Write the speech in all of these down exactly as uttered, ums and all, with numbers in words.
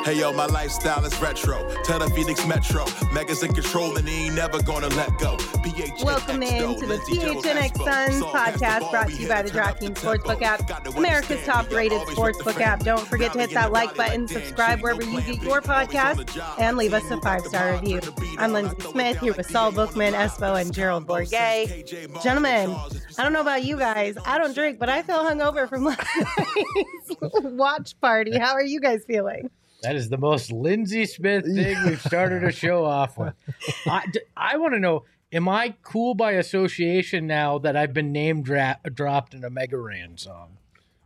Hey yo, my lifestyle is retro. Tell the Phoenix Metro. Megas in control and he ain't never gonna let go. P H N X Welcome in to the P H N X Suns podcast brought to you by the DraftKings Sportsbook app, America's top-rated sportsbook app. Don't forget to hit that like button, subscribe wherever you get your podcast, and leave us a five-star review. I'm Lindsay Smith here with Saul Bookman, Espo, and Gerald Bourget. Gentlemen, I don't know about you guys. I don't drink, but I feel hungover from last night's watch party. How are you guys feeling? That is the most Lindsay Smith thing we've started a show off with. I, I want to know, am I cool by association now that I've been name dra- dropped in a Mega Ran song?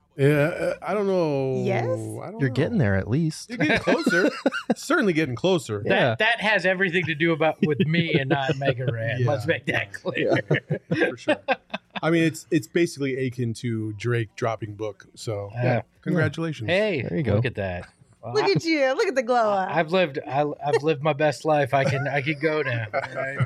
Yeah, I don't know. Yes? I don't You're know. getting there at least. You're getting closer. Certainly getting closer. That Yeah. that has everything to do about with me and not Mega Ran. Yeah. Let's make that clear. Yeah, for sure. I mean, it's it's basically akin to Drake dropping book. So, yeah, Uh, congratulations. Hey, There you go. look at that. Well, Look I, at you. Look at the glow up. I've lived I, I've lived my best life. I can I can go now. all right?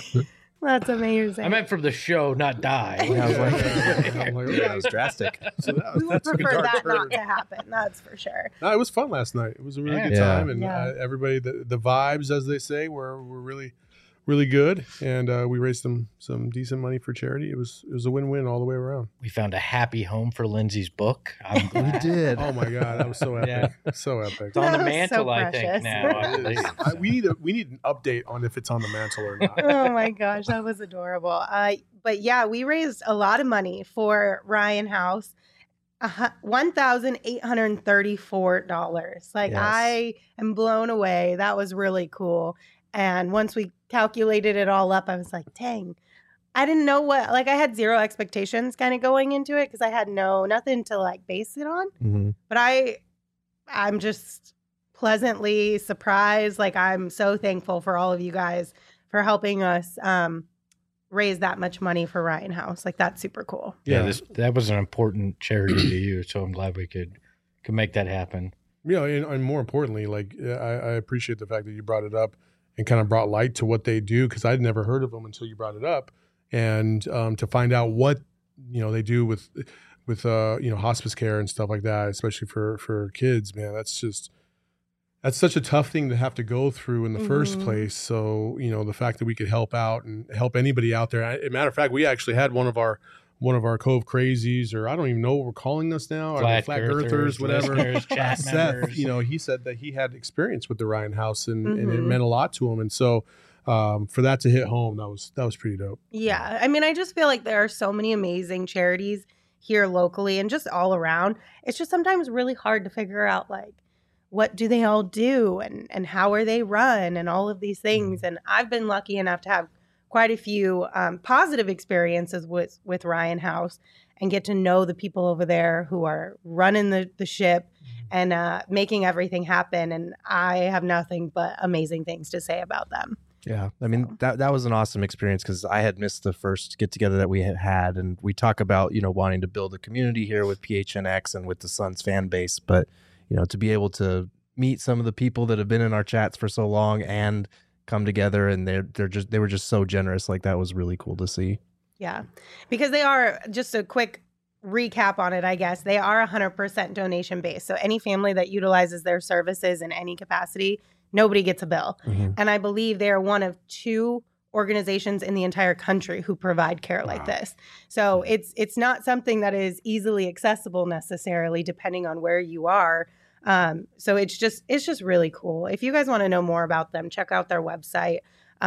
That's amazing. I meant from the show, not die. Yeah, I was like, I'm like, yeah, that was drastic. So that, we would that's a prefer dark that not turn. to happen. That's for sure. No, it was fun last night. It was a really Yeah. good Yeah. time, and Yeah. uh, everybody, the, the vibes, as they say, were were really, really good, and uh, we raised some some decent money for charity. It was it was a win win all the way around. We found a happy home for Lindsay's book. I'm We glad. did. Oh my god, that was so epic, so epic. It's on the That was mantle, so I precious. think, now. I It believe. is. I, we need a, we need an update on if it's on the mantle or not. Oh my gosh, that was adorable. Uh, but yeah, we raised a lot of money for Ryan House. Uh, one thousand eight hundred thirty-four dollars. Like, Yes. I am blown away. That was really cool. And once we calculated it all up, I was like, dang, I didn't know what, like, I had zero expectations kind of going into it because I had no, nothing to like base it on. Mhm. But I, I'm just pleasantly surprised. Like, I'm so thankful for all of you guys for helping us um, raise that much money for Ryan House. Like, that's super cool. Yeah, Yeah. this that was an important charity to you, so I'm glad we could could make that happen. You know, and, and more importantly, like I, I appreciate the fact that you brought it up and kind of brought light to what they do, because I'd never heard of them until you brought it up, and um, to find out what you know they do with with uh, you know hospice care and stuff like that, especially for for kids. Man, that's just that's such a tough thing to have to go through in the first Mhm. place. So you know, the fact that we could help out and help anybody out there. As a matter of fact, we actually had one of our one of our Cove Crazies, or I don't even know what we're calling us now, or Flat, flat girthers, girthers, whatever. listeners, chat Seth, members. you know, he said that he had experience with the Ryan House, and, and it Mhm. meant a lot to him. And so, um, for that to hit home, that was that was pretty dope. Yeah. I mean, I just feel like there are so many amazing charities here locally and just all around. It's just sometimes really hard to figure out, like, what do they all do and, and how are they run and all of these things. And I've been lucky enough to have quite a few um, positive experiences with, with Ryan House and get to know the people over there who are running the, the ship and uh, making everything happen. And I have nothing but amazing things to say about them. Yeah, I mean So. that that was an awesome experience because I had missed the first get together that we had had, and we talk about you know wanting to build a community here with P H N X and with the Suns fan base, but you know to be able to meet some of the people that have been in our chats for so long and come together, and they're they're just they were just so generous. Like that was really cool to see. Yeah, because they are, just a quick recap on it, I guess, they are one hundred percent donation based. So any family that utilizes their services in any capacity, nobody gets a bill. Mhm. And I believe they are one of two organizations in the entire country who provide care like Wow. this. So it's it's not something that is easily accessible necessarily, depending on where you are. Um, so it's just it's just really cool. If you guys want to know more about them, check out their website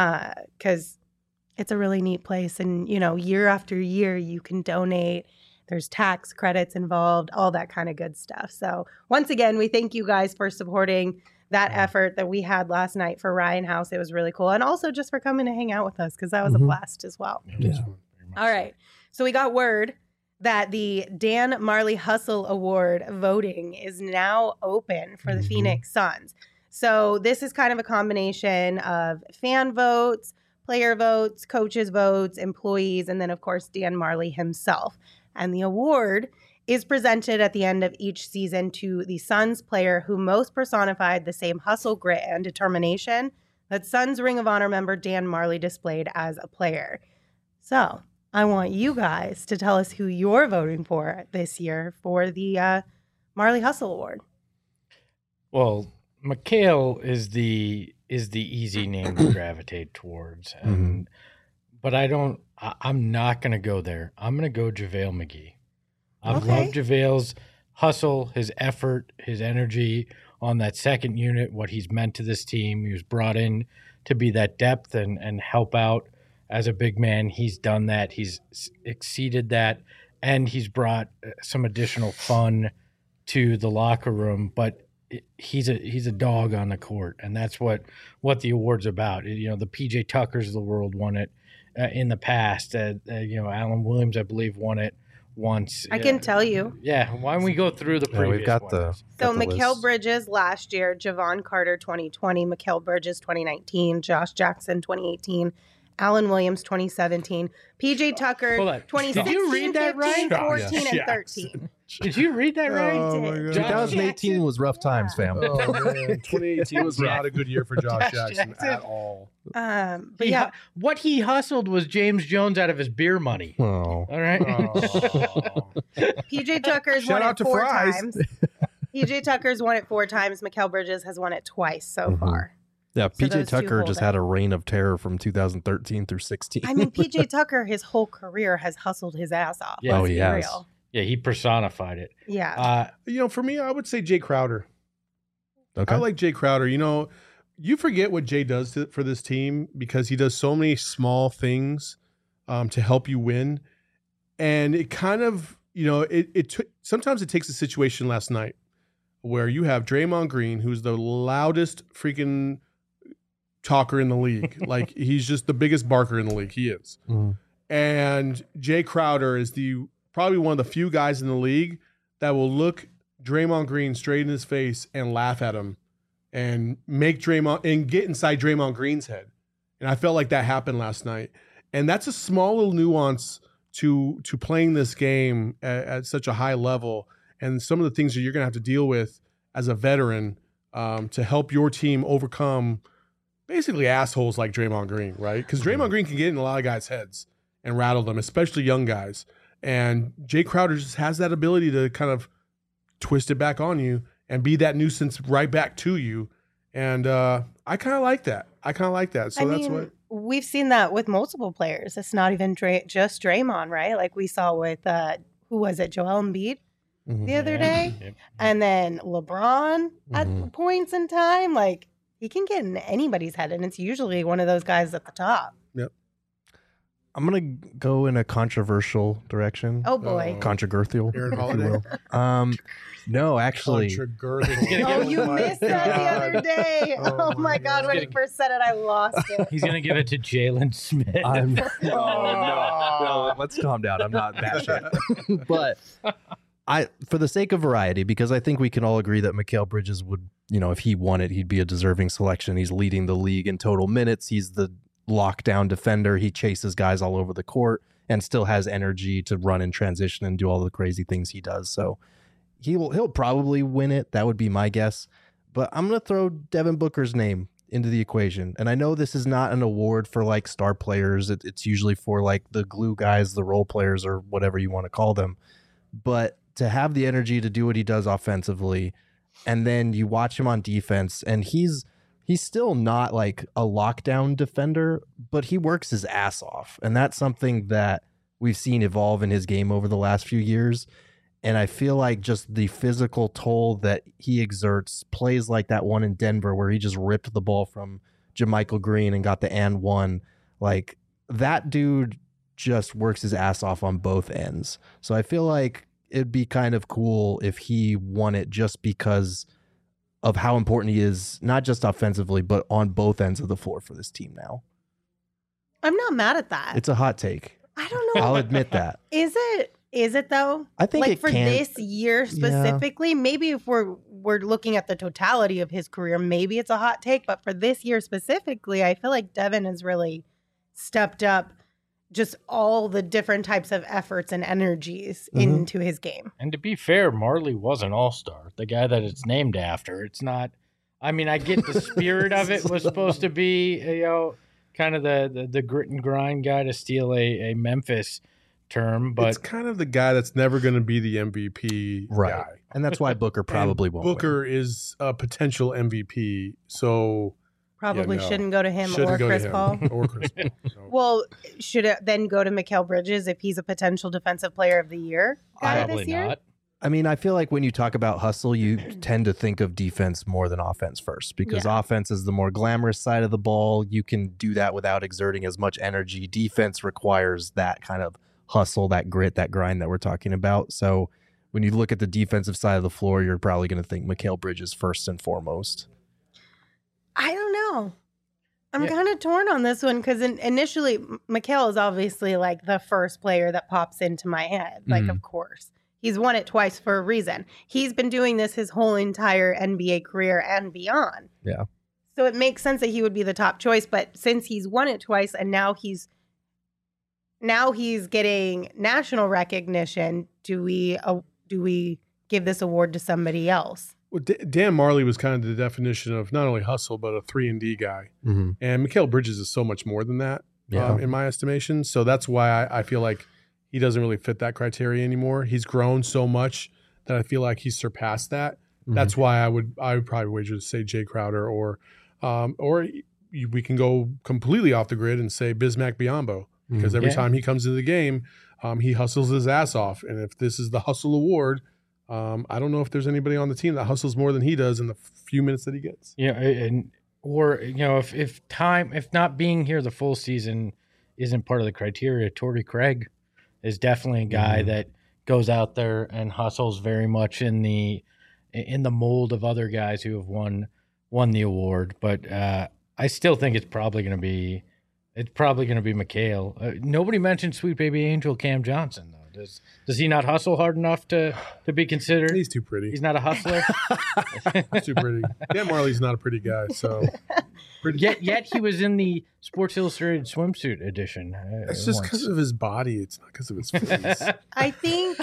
because it's a really neat place. And, you know, year after year, you can donate. There's tax credits involved, all that kind of good stuff. So once again, we thank you guys for supporting that effort that we had last night for Ryan House. It was really cool. And also just for coming to hang out with us because that was Mhm. a blast as well. Yeah, that's fun, very much All so. right. So we got word that the Dan Marley Hustle Award voting is now open for the Mhm. Phoenix Suns. So this is kind of a combination of fan votes, player votes, coaches votes, employees, and then of course Dan Marley himself. And the award is presented at the end of each season to the Suns player who most personified the same hustle, grit, and determination that Suns Ring of Honor member Dan Marley displayed as a player. So I want you guys to tell us who you're voting for this year for the uh, Marley Hustle Award. Well, Mikhail is the is the easy name to gravitate towards, and but I don't. I, I'm not going to go there. I'm going to go JaVale McGee. I've Okay. loved JaVale's hustle, his effort, his energy on that second unit. What he's meant to this team. He was brought in to be that depth and and help out as a big man. He's done that. He's s- exceeded that, and he's brought uh, some additional fun to the locker room. But it- he's a he's a dog on the court, and that's what what the award's about. You know, the P J Tuckers of the world won it uh, in the past. Uh, uh, you know, Alan Williams, I believe, won it once. I Uh, can tell you. Yeah, why don't we go through the Yeah, previous we've got the winners? So got the Mikal list. Bridges last year, Javon Carter twenty twenty, Mikal Bridges twenty nineteen, Josh Jackson twenty eighteen, Alan Williams twenty seventeen, P J Tucker Hold on. twenty Did sixteen, you read that fifteen, right? fourteen, and Yes. thirteen. Did you read that right? Oh, my did. God. Josh twenty eighteen Jackson? was rough times, fam. Oh man, twenty eighteen was Yeah. not a good year for Josh Josh Jackson, Jackson. at all. Um, but He yeah, hu- what he hustled was James Jones out of his beer money. Oh. All right. Oh. P J Tucker's Shout won out it to four Fries. times. P J Tucker's won it four times. Mikal Bridges has won it twice so Mhm. far. Yeah, P J those two Tucker hold just it. had a reign of terror from two thousand thirteen through sixteen. I mean, P J Tucker, his whole career has hustled his ass off. Yeah. Oh, Let's he be has. real. Yeah, he personified it. Yeah. Uh, You know, for me, I would say Jay Crowder. Okay. I like Jay Crowder. You know, you forget what Jay does to, for this team because he does so many small things um, to help you win, and it kind of, you know, it it took. Sometimes it takes a situation last night where you have Draymond Green, who's the loudest freaking talker in the league. Like he's just the biggest barker in the league. He is. Mhm. And Jay Crowder is the probably one of the few guys in the league that will look Draymond Green straight in his face and laugh at him and make Draymond and get inside Draymond Green's head. And I felt like that happened last night. And that's a small little nuance to to playing this game at, at such a high level, and some of the things that you're going to have to deal with as a veteran um, to help your team overcome basically assholes like Draymond Green, right? Because Draymond Green can get in a lot of guys' heads and rattle them, especially young guys. And Jay Crowder just has that ability to kind of twist it back on you and be that nuisance right back to you. And uh, I kind of like that. I kind of like that. So I that's mean, what. we've seen that with multiple players. It's not even Dray- just Draymond, right? Like we saw with, uh, who was it, Joel Embiid Mhm. the other yeah. day? Yep. And then LeBron at Mhm. points in time. Like he can get in anybody's head, and it's usually one of those guys at the top. I'm gonna go in a controversial direction. Oh, boy. Oh. Controversial. Aaron if you Holiday. will. Um, no, actually, Controversial. Oh, you my missed that the God. other day. Oh, Oh, my my God. When he God. first said it, I lost it. He's gonna give it to Jalen Smith. I'm, no, no, no, let's calm down. I'm not that shit. But I, for the sake of variety, because I think we can all agree that Mikal Bridges would, you know, if he won it, he'd be a deserving selection. He's leading the league in total minutes. He's the lockdown defender. He chases guys all over the court and still has energy to run in transition and do all the crazy things he does. So he will, he'll probably win it. That would be my guess. But I'm going to throw Devin Booker's name into the equation. And I know this is not an award for like star players. It, it's usually for like the glue guys, the role players, or whatever you want to call them. But to have the energy to do what he does offensively, and then you watch him on defense, and he's he's still not like a lockdown defender, but he works his ass off. And that's something that we've seen evolve in his game over the last few years. And I feel like just the physical toll that he exerts, plays like that one in Denver where he just ripped the ball from JaMychal Green and got the and one, like that dude just works his ass off on both ends. So I feel like it'd be kind of cool if he won it just because of how important he is, not just offensively, but on both ends of the floor for this team now. I'm not mad at that. It's a hot take. I don't know. I'll admit that. Is it? Is it though? I think like it for can- this year specifically, maybe if we're we're looking at the totality of his career, maybe it's a hot take. But for this year specifically, I feel like Devin has really stepped up just all the different types of efforts and energies Mhm. into his game. And to be fair, Marley was an all-star, the guy that it's named after. It's not, I mean, I get the spirit of it was supposed to be, you know, kind of the, the, the grit and grind guy to steal a, a Memphis term, but it's kind of the guy that's never going to be the M V P Right. guy. And that's why Booker probably And won't. win. Booker is a potential M V P, so Probably Yeah, no. shouldn't go to him shouldn't or go Chris to him Paul. or Chris Paul. So. Well, should it then go to Mikal Bridges if he's a potential defensive player of the year guy probably this year? not. I mean, I feel like when you talk about hustle, you tend to think of defense more than offense first because Yeah. offense is the more glamorous side of the ball. You can do that without exerting as much energy. Defense requires that kind of hustle, that grit, that grind that we're talking about. So when you look at the defensive side of the floor, you're probably going to think Mikal Bridges first and foremost. I don't know. I'm Yeah. kind of torn on this one because in, initially, M- Mikal is obviously like the first player that pops into my head. Like, Mhm. of course. He's won it twice for a reason. He's been doing this his whole entire N B A career and beyond. Yeah. So it makes sense that he would be the top choice. But since he's won it twice and now he's now he's getting national recognition, do we uh, do we give this award to somebody else? Well, D- Dan Marley was kind of the definition of not only hustle but a three and D guy, Mm-hmm. and Mikal Bridges is so much more than that, Yeah. um, in my estimation. So that's why I, I feel like he doesn't really fit that criteria anymore. He's grown so much that I feel like he's surpassed that. Mm-hmm. That's why I would I would probably wager to say Jay Crowder or um, or y- we can go completely off the grid and say Bismack Biyombo because every Yeah. time he comes into the game, um, he hustles his ass off. And if this is the hustle award, um, I don't know if there's anybody on the team that hustles more than he does in the few minutes that he gets. Yeah, and or you know, if if time, if not being here the full season isn't part of the criteria, Torrey Craig is definitely a guy Mhm. that goes out there and hustles very much in the in the mold of other guys who have won won the award. But uh, I still think it's probably going to be it's probably going to be Mikal. Uh, nobody mentioned Sweet Baby Angel Cam Johnson though. Does does he not hustle hard enough to to be considered? He's too pretty. He's not a hustler. He's too pretty. Dan Marley's not a pretty guy, so pretty. yet yet he was in the Sports Illustrated swimsuit edition. uh, It's just once. because of his body. It's not because of his face. I think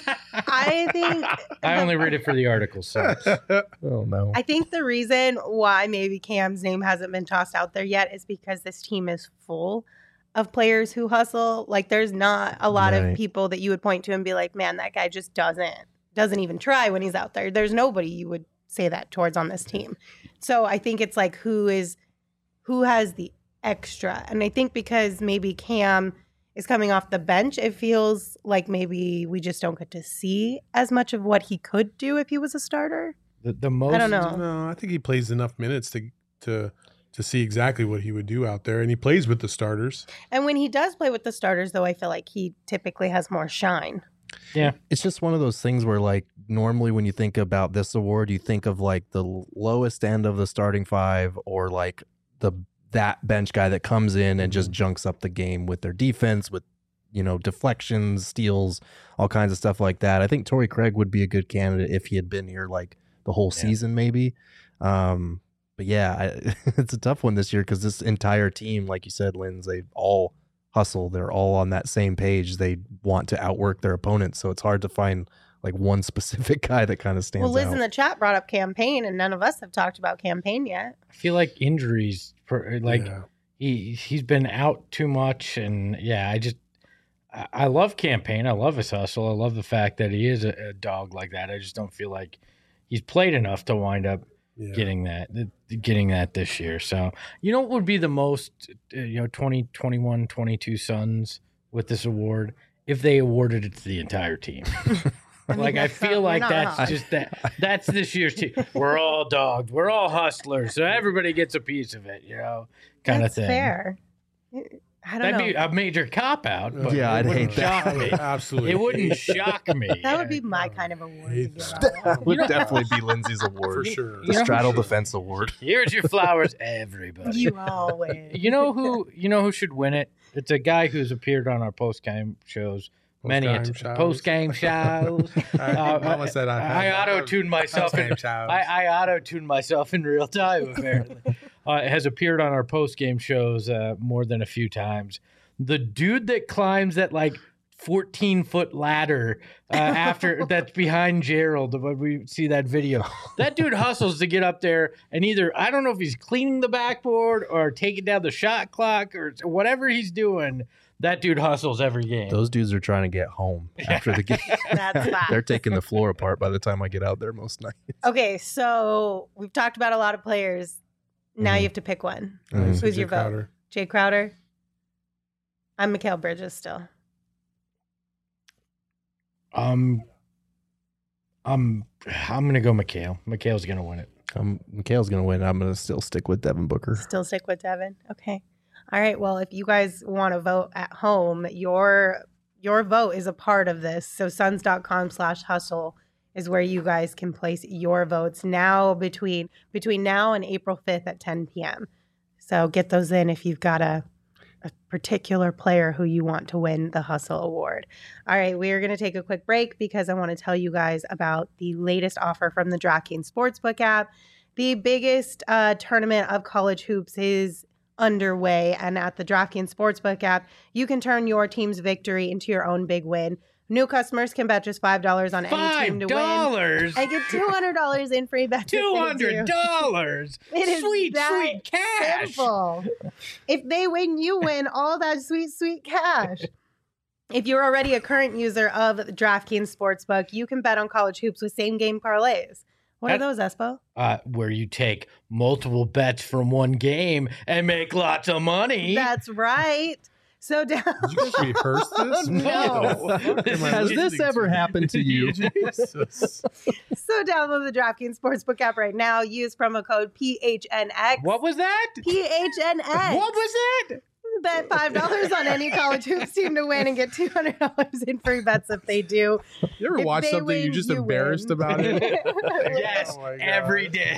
I think I only read it for the article, so Oh, no. I think the reason why maybe Cam's name hasn't been tossed out there yet is because this team is full of players who hustle. Like there's not a lot Right. of people that you would point to and be like, man, that guy just doesn't doesn't even try when he's out there. There's nobody you would say that towards on this team. So I think it's like who is who has the extra. And I think because maybe Cam is coming off the bench, it feels like maybe we just don't get to see as much of what he could do if he was a starter. the, the most I don't know. No, I think he plays enough minutes to to to see exactly what he would do out there, and he plays with the starters. And when he does play with the starters, though, I feel like he typically has more shine. It's just one of those things where, like, normally when you think about this award, you think of like the lowest end of the starting five or like the that bench guy that comes in and just junks up the game with their defense, with, you know, deflections, steals, all kinds of stuff like that. I think Torrey Craig would be a good candidate if he had been here like the whole Yeah. season, maybe. Um, but yeah, I, it's a tough one this year because this entire team, like you said, Linz, they all hustle. They're all on that same page. They want to outwork their opponents. So it's hard to find like one specific guy that kind of stands Well, Liz out. in the chat brought up campaign, and none of us have talked about campaign yet. I feel like injuries, per, like Yeah. he he's been out too much, and yeah, I just I, I love campaign. I love his hustle. I love the fact that he is a, a dog like that. I just don't feel like he's played enough to wind up Yeah. getting that getting that this year. So you know what would be the most uh, you know twenty, twenty-one, twenty-two Suns with this award if they awarded it to the entire team. I mean, Like I that's feel not- like we're that's not. just that that's this year's team. We're all dogs. We're all hustlers. So everybody gets a piece of it, you know, kind That's of thing. fair. I don't That'd know. be a major cop out. But Yeah, it I'd wouldn't hate that. shock me. Absolutely. It wouldn't shock me. that would be my kind of award to hate give that. out. That would You know- definitely be Lindsay's for award. sure. The You know- Straddle Defense Award. Here's your flowers, everybody. You always. You know who? You know who should win it? It's a guy who's appeared on our post game shows. Many Post-game shows. post game shows. I, Uh, Mama said I, I had- auto tuned myself. In, Post-game shows. I, I auto tuned myself in real time. Apparently, uh, has appeared on our post game shows uh, more than a few times. The dude that climbs that like fourteen foot ladder uh, after that's behind Gerald when we see that video. That dude hustles to get up there and either I don't know if he's cleaning the backboard or taking down the shot clock or whatever he's doing. That dude hustles every game. Those dudes are trying to get home after the game. That's fact. They're taking the floor apart by the time I get out there most nights. Okay, so we've talked about a lot of players. Now Mhm. you have to pick one. Mhm. Who's Jay your vote? Crowder. Jay Crowder? I'm Mikal Bridges still. Um, I'm I'm gonna go Mikal. Mikal's gonna win it. Um, Mikhail's going to win. I'm going to still stick with Devin Booker. Still stick with Devin. Okay. All right. Well, if you guys want to vote at home, your your vote is a part of this. So suns.com slash hustle is where you guys can place your votes now between between now and April fifth at ten p.m. So get those in if you've got a a particular player who you want to win the Hustle Award. All right, we are going to take a quick break because I want to tell you guys about the latest offer from the DraftKings Sportsbook app. The biggest uh, tournament of college hoops is underway, and at the DraftKings Sportsbook app, you can turn your team's victory into your own big win. New customers can bet just five dollars on any team to Five dollars. win and get two hundred dollars in free bets. if Two they hundred do. dollars. It is Sweet, that sweet cash. Simple. If they win, you win all that sweet, sweet cash. If you're already a current user of DraftKings Sportsbook, you can bet on college hoops with same game parlays. What That- are those, Espo? Uh, where you take multiple bets from one game and make lots of money. That's right. So down. Did you just rehearse this? No. What the fuck am I Has listening this ever to? happened to you? Jesus. So download the DraftKings Sportsbook app right now. Use promo code P H N X. What was that? P H N X. What was that? Bet five dollars on any college hoops team to win and get two hundred dollars in free bets if they do. You ever If watch they something win, you're just you embarrassed win. about it? Yes, Oh my God. every day.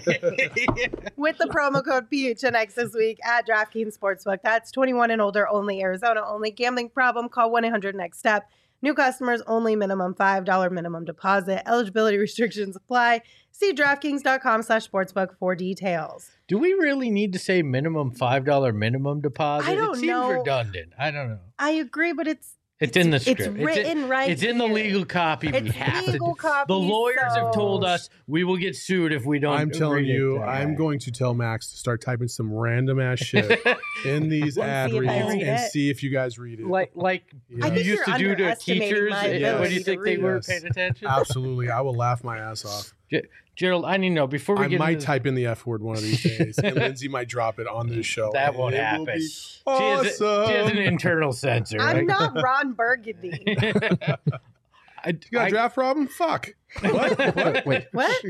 With the promo code P H N X this week at DraftKings Sportsbook. That's twenty-one and older only, Arizona only. Gambling problem, call one eight hundred next step. New customers only, minimum five dollars minimum deposit. Eligibility restrictions apply. See DraftKings.com slash sportsbook for details. Do we really need to say minimum five dollar minimum deposit? I don't it seems know. redundant. I don't know. I agree, but it's It's, in the it's script. written in, right It's in the here. legal copy. we It's have to. legal do- copy, The lawyers have told so- us we will get sued if we don't. I'm telling read it. you, All I'm right. going to tell Max to start typing some random ass shit in these Let's ad see if I reads read and it. see if you guys read it. like like Yeah. I you think used you're to do to underestimating teachers. my Uh, What do ability you to think they read. were Yes. paying attention? Absolutely, I will laugh my ass off. Gerald, I need to know before we I get might into type in the F word one of these days, and Lindsay might drop it on this show. That and won't it will happen. be She has, a- she has an awesome. internal censor. I'm right? not Ron Burgundy. I, You got a I- draft problem? Fuck. What? What? Wait, What?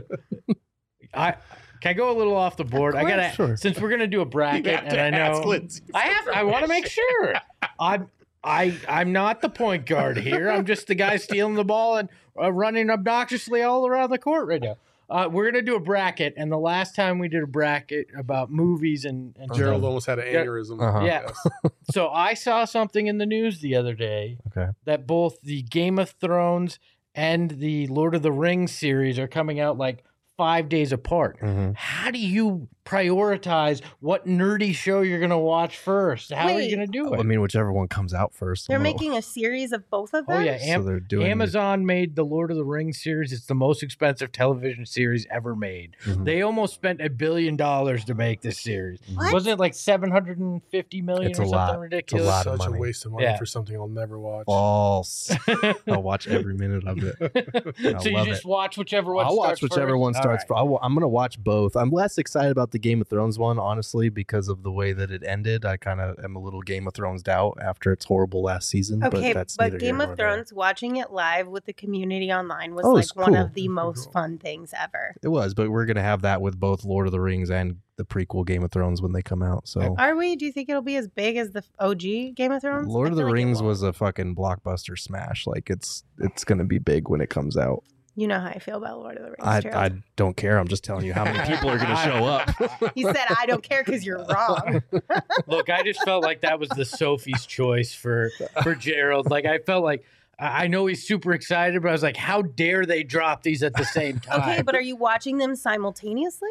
I can I go a little off the board. I gotta sure. since we're gonna do a bracket, have and to I know ask Lindsay I have. I want to make sure. I'm I I'm not the point guard here. I'm just the guy stealing the ball and uh, running obnoxiously all around the court right now. Uh, we're gonna do a bracket, and the last time we did a bracket about movies and, and Gerald stuff, almost had an Yeah. aneurysm. Uh-huh. Yeah. so I saw something in the news the other day Okay. that both the Game of Thrones and the Lord of the Rings series are coming out like five days apart. Mhm. How do you prioritize what nerdy show you're going to watch first? How are Wait. you going to do it? I mean, whichever one comes out first. They're I'm gonna- making a series of both of oh, them? yeah. so Am- they're doing Amazon made the Lord of the Rings series. It's the most expensive television series ever made. Mhm. They almost spent a billion dollars to make this series. What? Wasn't it like seven hundred fifty million It's or a something lot. It's a ridiculous? lot of Such a money. waste of money Yeah. for something I'll never watch. False. I'll watch every minute of it. I so you love just it. watch whichever one I'll watch starts whichever first? one All starts. right. fir- I'll, I'm going to watch both. I'm less excited about the Game of Thrones one, honestly, because of the way that it ended. I kind of am a little Game of Thrones out after its horrible last season. Okay, but that's but neither Game here of nor there. Thrones, watching it live with the community online was Oh, like it's one cool. of the It's most cool. fun things ever. It was, but we're going to have that with both Lord of the Rings and the prequel Game of Thrones when they come out. So Are we? Do you think it'll be as big as the O G Game of Thrones? Lord I of the feel like it Rings won't. was a fucking blockbuster smash. Like it's it's going to be big when it comes out. You know how I feel about Lord of the Rings. I, Gerald. I don't care. I'm just telling you how many people are going to show up. He said, "I don't care because you're wrong." Look, I just felt like that was the Sophie's choice for for Gerald. Like I felt like I I know he's super excited, but I was like, how dare they drop these at the same time? Okay, but are you watching them simultaneously?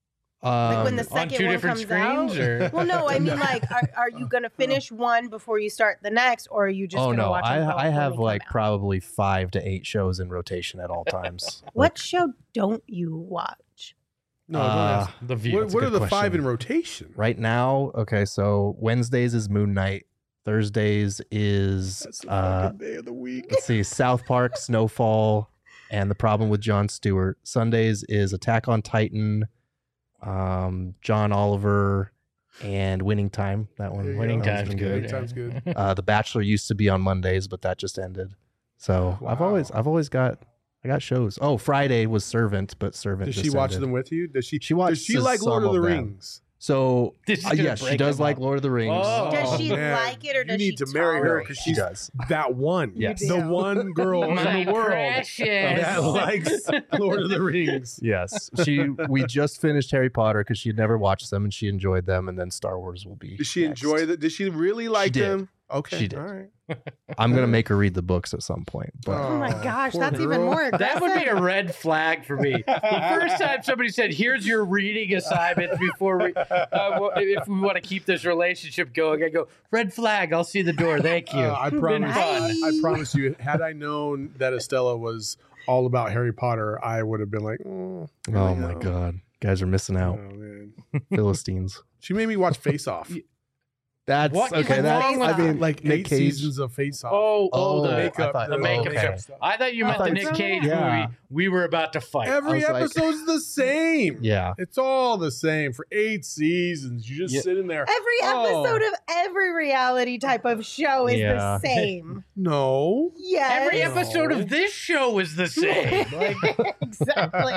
Like when the Um, on second two one different comes screens, out? or Well, no, I mean, like, are, are you going to finish one before you start the next, or are you just oh going to no, watch I them both I when have they come like out? probably five to eight shows in rotation at all times. What show don't you watch? No, Uh, don't ask. the view. What, that's a what are good the five question. in rotation? Right now, okay, so Wednesdays is Moon Knight, Thursdays is That's the uh, fucking day of the week. let's see, South Park, Snowfall, and The Problem with Jon Stewart. Sundays is Attack on Titan, um, John Oliver, and Winning Time. That one, There you Winning go. Time's been good. Winning Time's good. Uh, The Bachelor used to be on Mondays, but that just ended. So I've always, Wow. I've always got, I got shows. Oh, Friday was Servant, but Servant. Does just she watch ended. them with you? Does she? She Does watches she like some Lord of the of them. Rings? So This is uh, gonna yes, she break does them like up. Lord of the Rings. Oh. Does she man. like it or does You she need to marry her tolerate because She she's does. that one. Yes. You The do. one girl My in the world precious. that likes Lord of the Rings. Yes, she. We just finished Harry Potter because she had never watched them and she enjoyed them, and then Star Wars will be. Did she next. enjoy that? Did she really like did. them? Okay, She did. All right. I'm gonna make her read the books at some point. But Oh my Oh, gosh, poor that's even girl. more aggressive. That would be a red flag for me. The first time somebody said, "Here's your reading assignment," before we, uh, if we want to keep this relationship going, I go, "Red flag. I'll see the door. Thank you." Uh, I Been promise. fun. I promise you. Had I known that Estella was all about Harry Potter, I would have been like, "Oh, here oh we my go." god, guys are missing Oh out. man, Philistines. she made me watch Face Off. That's What is okay. That's wrong with I mean, like Nick eight Cage. seasons of Face Off. Oh, oh, Oh, the I makeup, thought- the makeup okay. stuff. I thought you I meant the thought Nick so. Cage Yeah. movie. We were about to fight. Every I was like- episode's the same. Yeah. It's all the same for eight seasons. You just Yeah. sit in there. Every Oh. episode of every reality type of show is Yeah. the same. No. Yes. Every No. episode of this show is the same. exactly.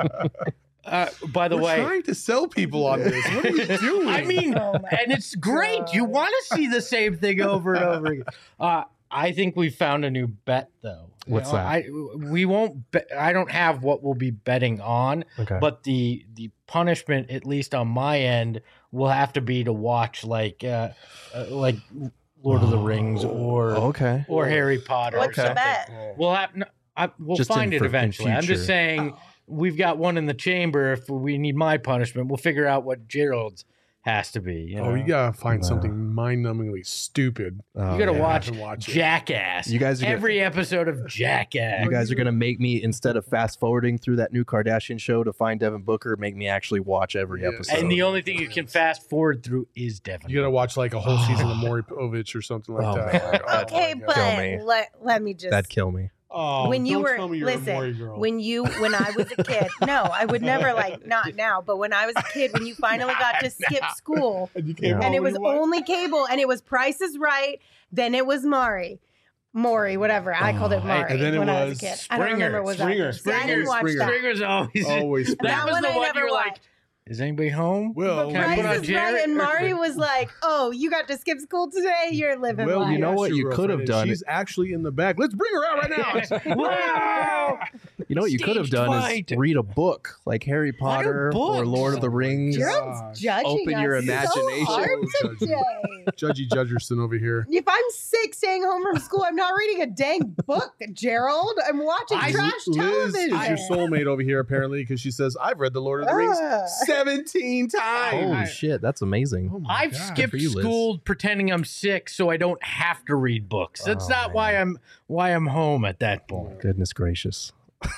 Uh, by the We're way, trying to sell people on this. What are you doing? I mean, Oh my and it's great. You God. want to see the same thing over and over again. Uh, I think we found a new bet, though. You What's know, that? I we won't. Bet, I don't have what we'll be betting on, Okay. but the the punishment, at least on my end, will have to be to watch like uh, uh, like Lord of the Rings or okay. or Harry Potter. What's or the something. bet? We'll have. No, I, we'll Just find in it for- in eventually. I'm just future. saying. Oh. We've got one in the chamber. If we need my punishment, we'll figure out what Gerald's has to be. You Oh, know? you gotta find No. something mind-numbingly stupid. Oh, You gotta yeah. watch, to watch it. Jackass. You guys are gonna- every episode of Jackass. You guys are gonna make me, instead of fast forwarding through that new Kardashian show to find Devin Booker, make me actually watch every Yes. episode. and the only thing you can fast forward through is Devin. You gotta watch like a whole season of Maury Povich or something like Oh, that. man. Like, oh Okay, my God. but Kill me. let, let me just That'd kill me. Oh, when you don't were tell me you're a listen Maury girl. when you when I was a kid no I would never like not now but when I was a kid when you finally got to skip school and you Yeah. came and home it was you watched- only cable and it was Price is Right, then it was Maury Maury whatever I called it Oh, Maury and then it when I was was a kid I don't remember what Springer. was that. See, I didn't watch Springer. that. Springer's always. always. that That was one the I one never you were like, watched. is anybody home? Well, Can I put on Price is Jared? Right and Maury was like, oh, you got to skip school today, you're living Well, life. you know that's what your you could have girlfriend, done? and She's actually in the back. Let's bring her out right now. Wow! You know what you could have Staged done fight. is read a book like Harry Why do Potter or books? Lord of the Rings. Gerald's Gosh. judging Open us your so imagination. hard So judgy. today. Judgy Judgerson over here. If I'm sick staying home from school, I'm not reading a dang book, Gerald. I'm watching I- trash Liz television. is your soulmate over here, apparently, because she says, I've read The Lord of the Rings Ugh. seventeen times. Holy I- shit, that's amazing. Oh my I've God. skipped for you, Liz. school pretending I'm sick so I don't have to read books. That's Oh, not why man. I'm why I'm home at that point. Goodness gracious.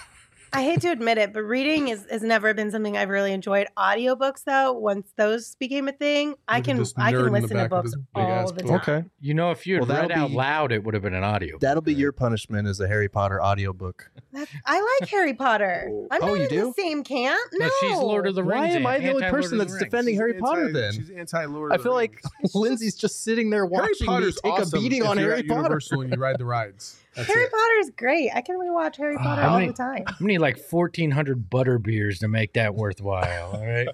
I hate to admit it, but reading is, has never been something I've really enjoyed. Audiobooks, though, once those became a thing, I Look at can this I nerd can in the listen to back with books his big all ass the book. time. Okay. You know, if you had Well, that'll read out be- loud, it would have been an audio. That'll be your punishment as a Harry Potter audiobook. That's, I like Harry Potter. I'm Oh, not you in do? the same camp. No, But she's Lord of the Rings. Why am I and the only anti-Lord person of the that's Rings. defending Harry She's Potter anti- then? She's anti-Lord I of the feel like Rings. Lindsay's just sitting there Harry watching me Potter's take awesome a beating if on you're Harry at Potter. Universal and you ride the rides. That's Harry it. Potter is great. I can rewatch Harry Potter How all many- the time. I'm gonna need like fourteen hundred butter beers to make that worthwhile. All right.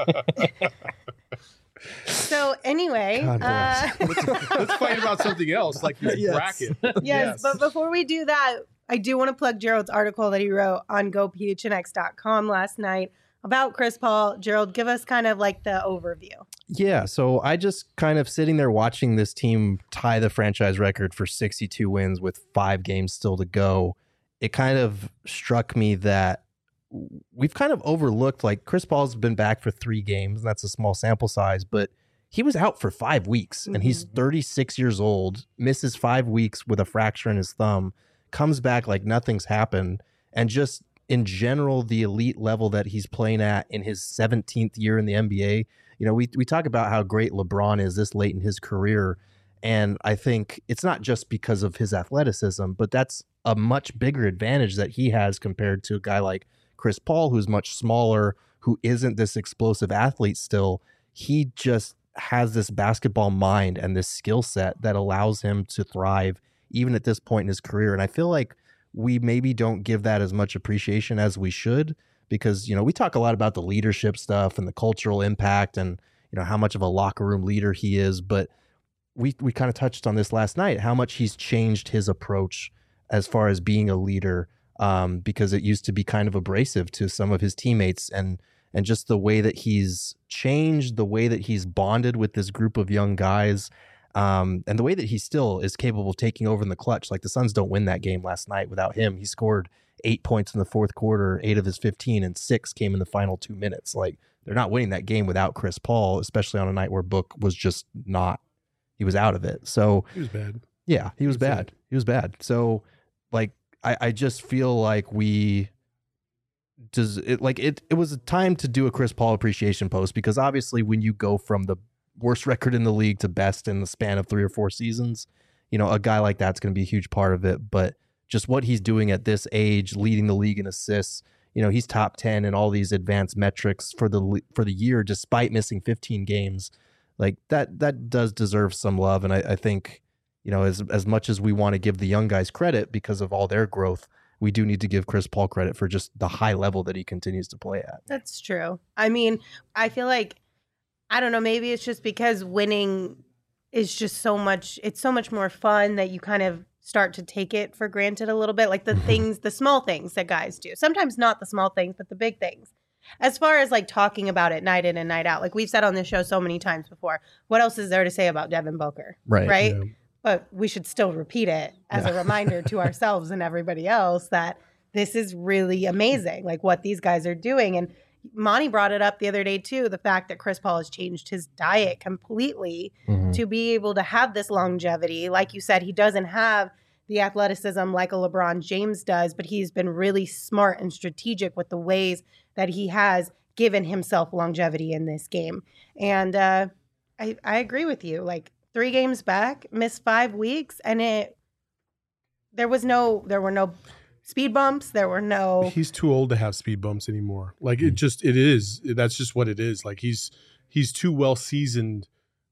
So anyway, God uh, bless. Let's fight about something else, like your Yes. bracket. yes, Yes. but before we do that, I do want to plug Gerald's article that he wrote on go p h n x dot com last night about Chris Paul. Gerald, give us kind of like the overview. Yeah, so I just kind of sitting there watching this team tie the franchise record for sixty-two wins with five games still to go. It kind of struck me that we've kind of overlooked, like, Chris Paul's been back for three games, and that's a small sample size, but he was out for five weeks, and he's Mhm. thirty-six years old, misses five weeks with a fracture in his thumb, comes back like nothing's happened, and just in general, the elite level that he's playing at in his seventeenth year in the N B A. You know, we we talk about how great LeBron is this late in his career, And I think it's not just because of his athleticism, but that's a much bigger advantage that he has compared to a guy like Chris Paul, who's much smaller, who isn't this explosive athlete still. He just has this basketball mind and this skill set that allows him to thrive even at this point in his career. And I feel like we maybe don't give that as much appreciation as we should, because, you know, we talk a lot about the leadership stuff and the cultural impact and, you know, how much of a locker room leader he is. But we, we kind of touched on this last night, how much he's changed his approach as far as being a leader, um, because it used to be kind of abrasive to some of his teammates, and and just the way that he's changed, the way that he's bonded with this group of young guys, um, and the way that he still is capable of taking over in the clutch. Like the Suns don't win that game last night without him. He scored eight points in the fourth quarter, eight of his fifteen, and six came in the final two minutes. Like they're not winning that game without Chris Paul, especially on a night where Book was just not, he was out of it. So He was bad. yeah, he was bad. He was bad. So like, I, I just feel like we does it like it, it was a time to do a Chris Paul appreciation post, because obviously when you go from the worst record in the league to best in the span of three or four seasons, you know, a guy like that's going to be a huge part of it. But just what he's doing at this age, leading the league in assists, you know, he's top ten in all these advanced metrics for the, for the year, despite missing fifteen games. Like that, that does deserve some love. And I, I think, you know, as as much as we want to give the young guys credit because of all their growth, we do need to give Chris Paul credit for just the high level that he continues to play at. That's true. I mean, I feel like, I don't know, maybe it's just because winning is just so much, it's so much more fun that you kind of start to take it for granted a little bit. Like the things, the small things that guys do. Sometimes not the small things, but the big things. As far as like talking about it night in and night out, like we've said on this show so many times before, what else is there to say about Devin Booker? Right. Right. Yeah. But we should still repeat it as Yeah. a reminder to ourselves and everybody else that this is really amazing, like what these guys are doing. And Monty brought it up the other day too, the fact that Chris Paul has changed his diet completely Mhm. to be able to have this longevity. Like you said, he doesn't have the athleticism like a LeBron James does, but he's been really smart and strategic with the ways that he has given himself longevity in this game. And uh, I, I agree with you. Like three games back, missed five weeks, and it there was no there were no speed bumps. There were no. He's too old to have speed bumps anymore. Like it just it is. That's just what it is. Like he's he's too well seasoned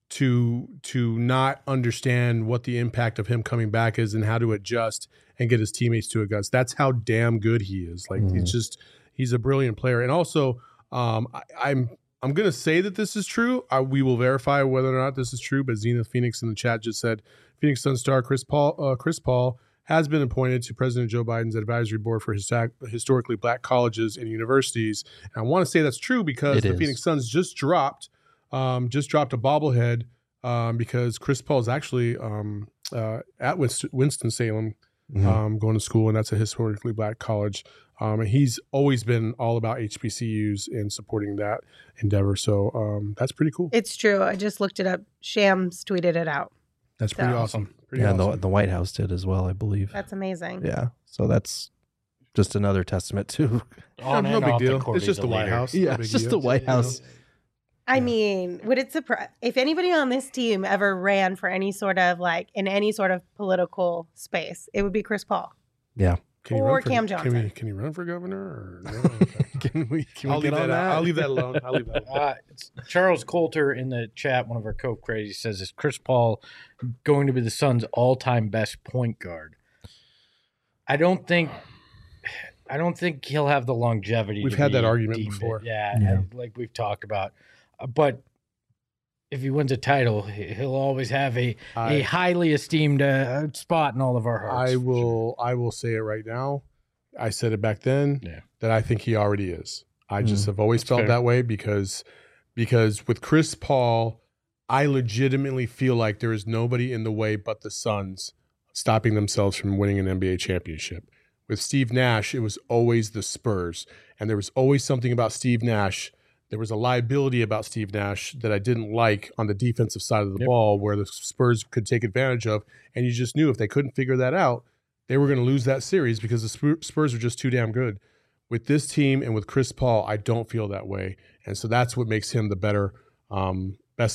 to to not understand what the impact of him coming back is and how to adjust and get his teammates to adjust. That's how damn good he is. Like Mhm. he's just he's a brilliant player. And also, um, I, I'm I'm gonna say that this is true. I, we will verify whether or not this is true. But Zenith Phoenix in the chat just said Phoenix Sun star Chris Paul uh, Chris Paul has been appointed to President Joe Biden's advisory board for his historically black colleges and universities. And I want to say that's true because It the is. Phoenix Suns just dropped um, just dropped a bobblehead um, because Chris Paul is actually um, uh, at Winston, Winston-Salem Mhm. um, going to school, and that's a historically black college. Um, and he's always been all about H B C Us and supporting that endeavor. So um, that's pretty cool. It's true. I just looked it up. Shams tweeted it out. That's pretty So- awesome. Pretty Yeah, and awesome. the, the White House did as well, I believe. That's amazing. Yeah. So that's just another testament to On no and big off the deal. court, It's he's just a the White leader. House. yeah, No big it's just deal. the White You know? House. I mean, would it surprise if anybody on this team ever ran for any sort of like in any sort of political space? It would be Chris Paul. Yeah. Can he Or run for, Cam Can, Johnson. we, can he run for governor? Or no? Okay. Can we can I'll we leave get that, on out. that? I'll leave that alone. I'll leave that alone. Uh, it's Charles Coulter in the chat, one of our co-crazy, says, is Chris Paul going to be the Suns' all-time best point guard? I don't think I don't think he'll have the longevity. We've to had that be argument deemed before. it. Yeah, Yeah. I- like we've talked about. Uh, but if he wins a title, he- he'll always have a, a I- highly esteemed uh, spot in all of our hearts. I for will. I will say it right now. I said it back then Yeah. that I think he already is. I just Mm, have always that's felt fair. that way because because with Chris Paul, I legitimately feel like there is nobody in the way but the Suns stopping themselves from winning an N B A championship. With Steve Nash, it was always the Spurs, and there was always something about Steve Nash. There was a liability about Steve Nash that I didn't like on the defensive side of the Yep. ball where the Spurs could take advantage of, and you just knew if they couldn't figure that out, they were going to lose that series because the Spur- Spurs were just too damn good. With this team and with Chris Paul, I don't feel that way. And so that's what makes him the better, um, best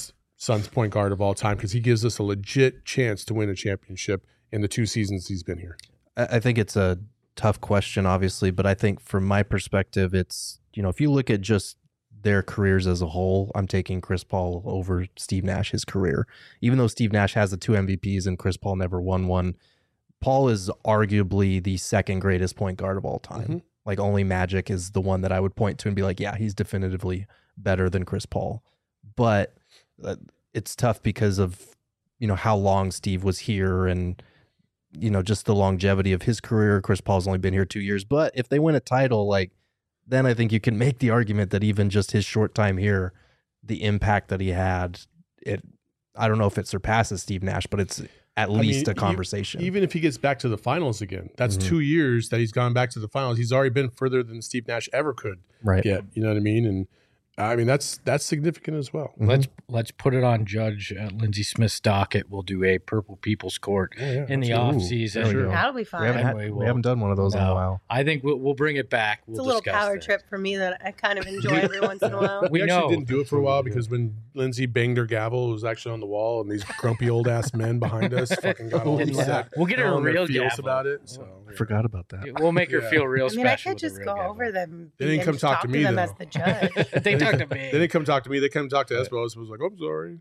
Suns point guard of all time because he gives us a legit chance to win a championship in the two seasons he's been here. I I think it's a tough question, obviously, but I think from my perspective, it's, you know, if you look at just their careers as a whole, I'm taking Chris Paul over Steve Nash, his career. Even though Steve Nash has the two M V Ps and Chris Paul never won one, Paul is arguably the second greatest point guard of all time. Mm-hmm. Like only Magic is the one that I would point to and be like, yeah, he's definitively better than Chris Paul. But uh, it's tough because of, you know, how long Steve was here and, you know, just the longevity of his career. Chris Paul's only been here two years. But if they win a title, like, then I think you can make the argument that even just his short time here, the impact that he had, it, I don't know if it surpasses Steve Nash, but it's at I least mean, a conversation. e- Even if he gets back to the finals again, that's Mhm. two years that he's gone back to the finals. He's already been further than Steve Nash ever could right. get. You know what I mean? And I mean, that's that's significant as well. Mhm. Let's let's put it on Judge uh, Lindsey Smith's docket. We'll do a Purple People's Court Yeah, yeah, in the absolutely. off season. there we go. That'll be We fun. haven't, had- Anyway, we we'll- haven't done one of those in a No. while. I think we'll, we'll bring it back. We'll It's a little discuss power that. trip for me that I kind of enjoy every once in a while. We, We actually know. didn't do it for a while because when Lindsay banged her gavel, it was actually on the wall, and these grumpy old ass men behind us fucking got all Didn't upset. We'll get her all a in their real feels gavel. about it. So I forgot about that. We'll make her Yeah. feel real I mean, I special. could with a just real go gavel. over them. They didn't and come just talk to me, them though. as the judge. They talk to me. They didn't come talk to me. They come talk to Espo. Espo was like, "I'm sorry."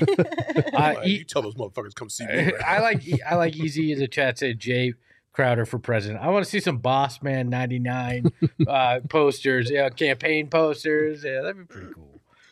Uh, Like, e- you tell those motherfuckers come see me. Right I now. like I like Easy in the chat said Jay Crowder for president. I want to see some Boss Man ninety-nine uh, posters, yeah, campaign posters. Yeah, that'd be pretty cool.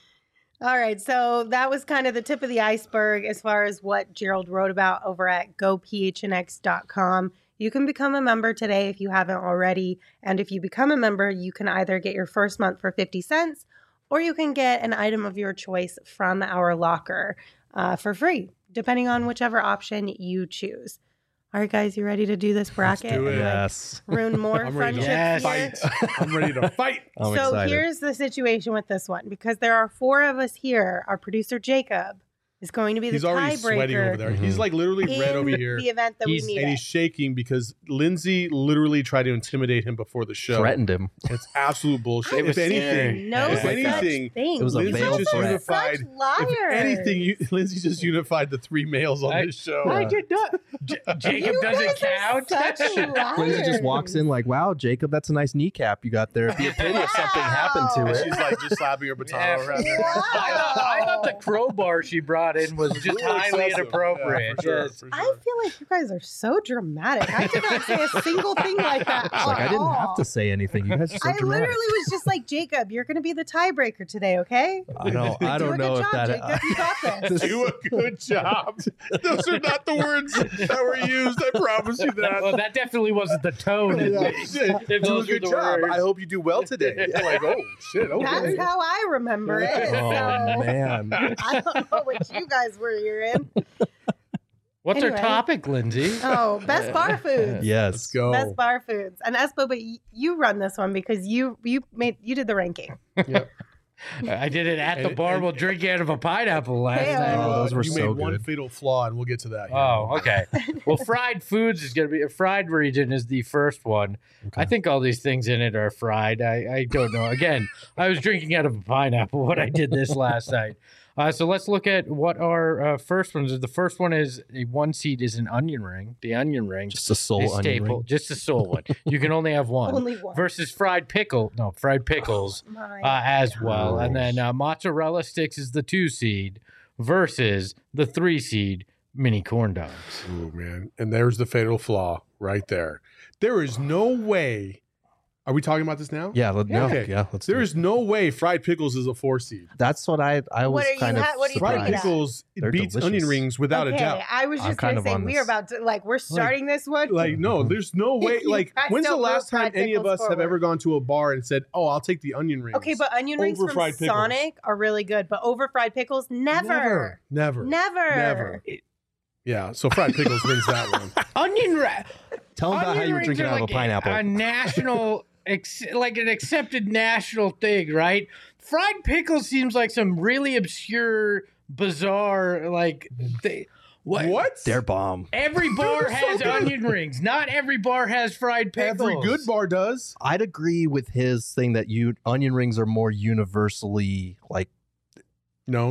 All right, so that was kind of the tip of the iceberg as far as what Gerald wrote about over at go p h n x dot com. You can become a member today if you haven't already. And if you become a member, you can either get your first month for fifty cents or you can get an item of your choice from our locker uh, for free, depending on whichever option you choose. All right, guys, you ready to do this bracket? do it. and, like, Yes. ruin more I'm ready to friendships Yes. here? fight. I'm ready to fight. I'm so excited. here's the situation with this one because there are four of us here. Our producer Jacob is going to be the He's already sweating over tiebreaker there. Mhm. He's like literally red in over here. the event that He's- we need And it. he's shaking because Lindsay literally tried to intimidate him before the show. Threatened him. It's absolute bullshit. It was if anything, scary. no If such anything, thing. it was a You Lindsay veiled guys just are threat. unified. such liars. If anything, you, Lindsay just unified the three males on I- this show. I did not. J- Jacob You doesn't guys are count. such liars. Lindsay just walks in like, wow, Jacob, that's a nice kneecap you got there. It'd be a pity if something happened to Wow. And it. she's like just slapping her baton Yeah. around. there. Wow. I thought, I thought the crowbar she brought in was just Really highly excessive. inappropriate. Yeah, for sure, Yes. for I sure. feel like you guys are so dramatic. I did not say a single thing like that. It's like, I didn't have all. to say anything. You guys are so I dramatic. literally was just like, Jacob, you're going to be the tiebreaker today, okay? I don't, I Do don't a know good if job, that. Jacob. You got this. Do a good job. Those are not the words that were used. I promise you that. Well, that definitely wasn't the tone. at Yeah, least. shit. If Do a those were good the job. words. I hope you do well today. Like, oh shit, okay. That's how I remember it. Oh, so man. I don't know what you guys were hearing. What's Anyway. our topic, Lindsay? Oh, best bar foods. Yes. Let's go. Best bar foods. And Espo, but y- you run this one because you you made you did the ranking. Yep. I did it at the And- bar and- while drinking out of a pineapple last Hey-o. night. Oh, those were you so made one good. fatal flaw, and we'll get to that. here. Oh, okay. Well, fried foods is going to be a fried region is the first one. Okay. I think all these things in it are fried. I, I don't know. Again, I was drinking out of a pineapple when I did this last night. Uh, so let's look at what our uh, first ones are. The first one is a one seed is an onion ring. The onion ring Just a soul is onion staple, ring. just a soul one. You can only have one. Only one. Versus fried pickle, no fried pickles My uh, as well. And gosh. then uh, mozzarella sticks is the two seed versus the three seed mini corn dogs. Ooh, man. And there's the fatal flaw right there. There is no way. Are we talking about this now? Yeah, let, Yeah. no, Okay. yeah. Let's There do it. is no way fried pickles is a four seed. That's what I I was What are you kind of ha- what are you Fried putting it surprised. at? pickles They're beats delicious. onion rings without okay, a doubt. I was I'm just kind gonna of say on we are this. about to like we're starting this one. Like, no, there's no way. You Like, guys when's the don't last move time fried any of us pickles have forward. ever gone to a bar and said, "Oh, I'll take the onion rings"? Okay, but onion rings Over from fried pickles. Sonic are really good, but over fried pickles, never, never, never, never. never. Yeah, so fried pickles wins that one. Onion ring. Tell them about how you were drinking out of a pineapple. A national, ex- like an accepted national thing, right? Fried pickles seems like some really obscure, bizarre, like they. What? What? They're bomb. Every bar They're so has good. onion rings. Not every bar has fried pickles. Every good bar does. I'd agree with his thing that you onion rings are more universally like Known.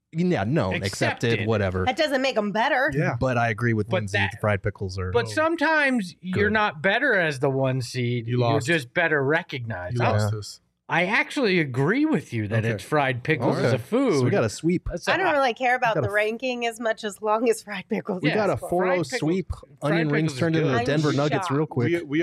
Yeah, known, accepted, Accepted. whatever. That doesn't make them better. Yeah. But I agree with But Lindsay. that- the fried pickles are. But sometimes you're Good. not better as the one seed. You lost. You're just better recognized. You I, lost this. I actually agree with you that Okay. it's fried pickles as Okay. a food. So we got a sweep. So I don't really care about got the a- ranking as much as long as fried pickles. We Yeah, got a is cool. four oh fried pickles- sweep. Onion fried rings pickles is turned into good. the I'm Denver Nuggets shocked. real quick. We,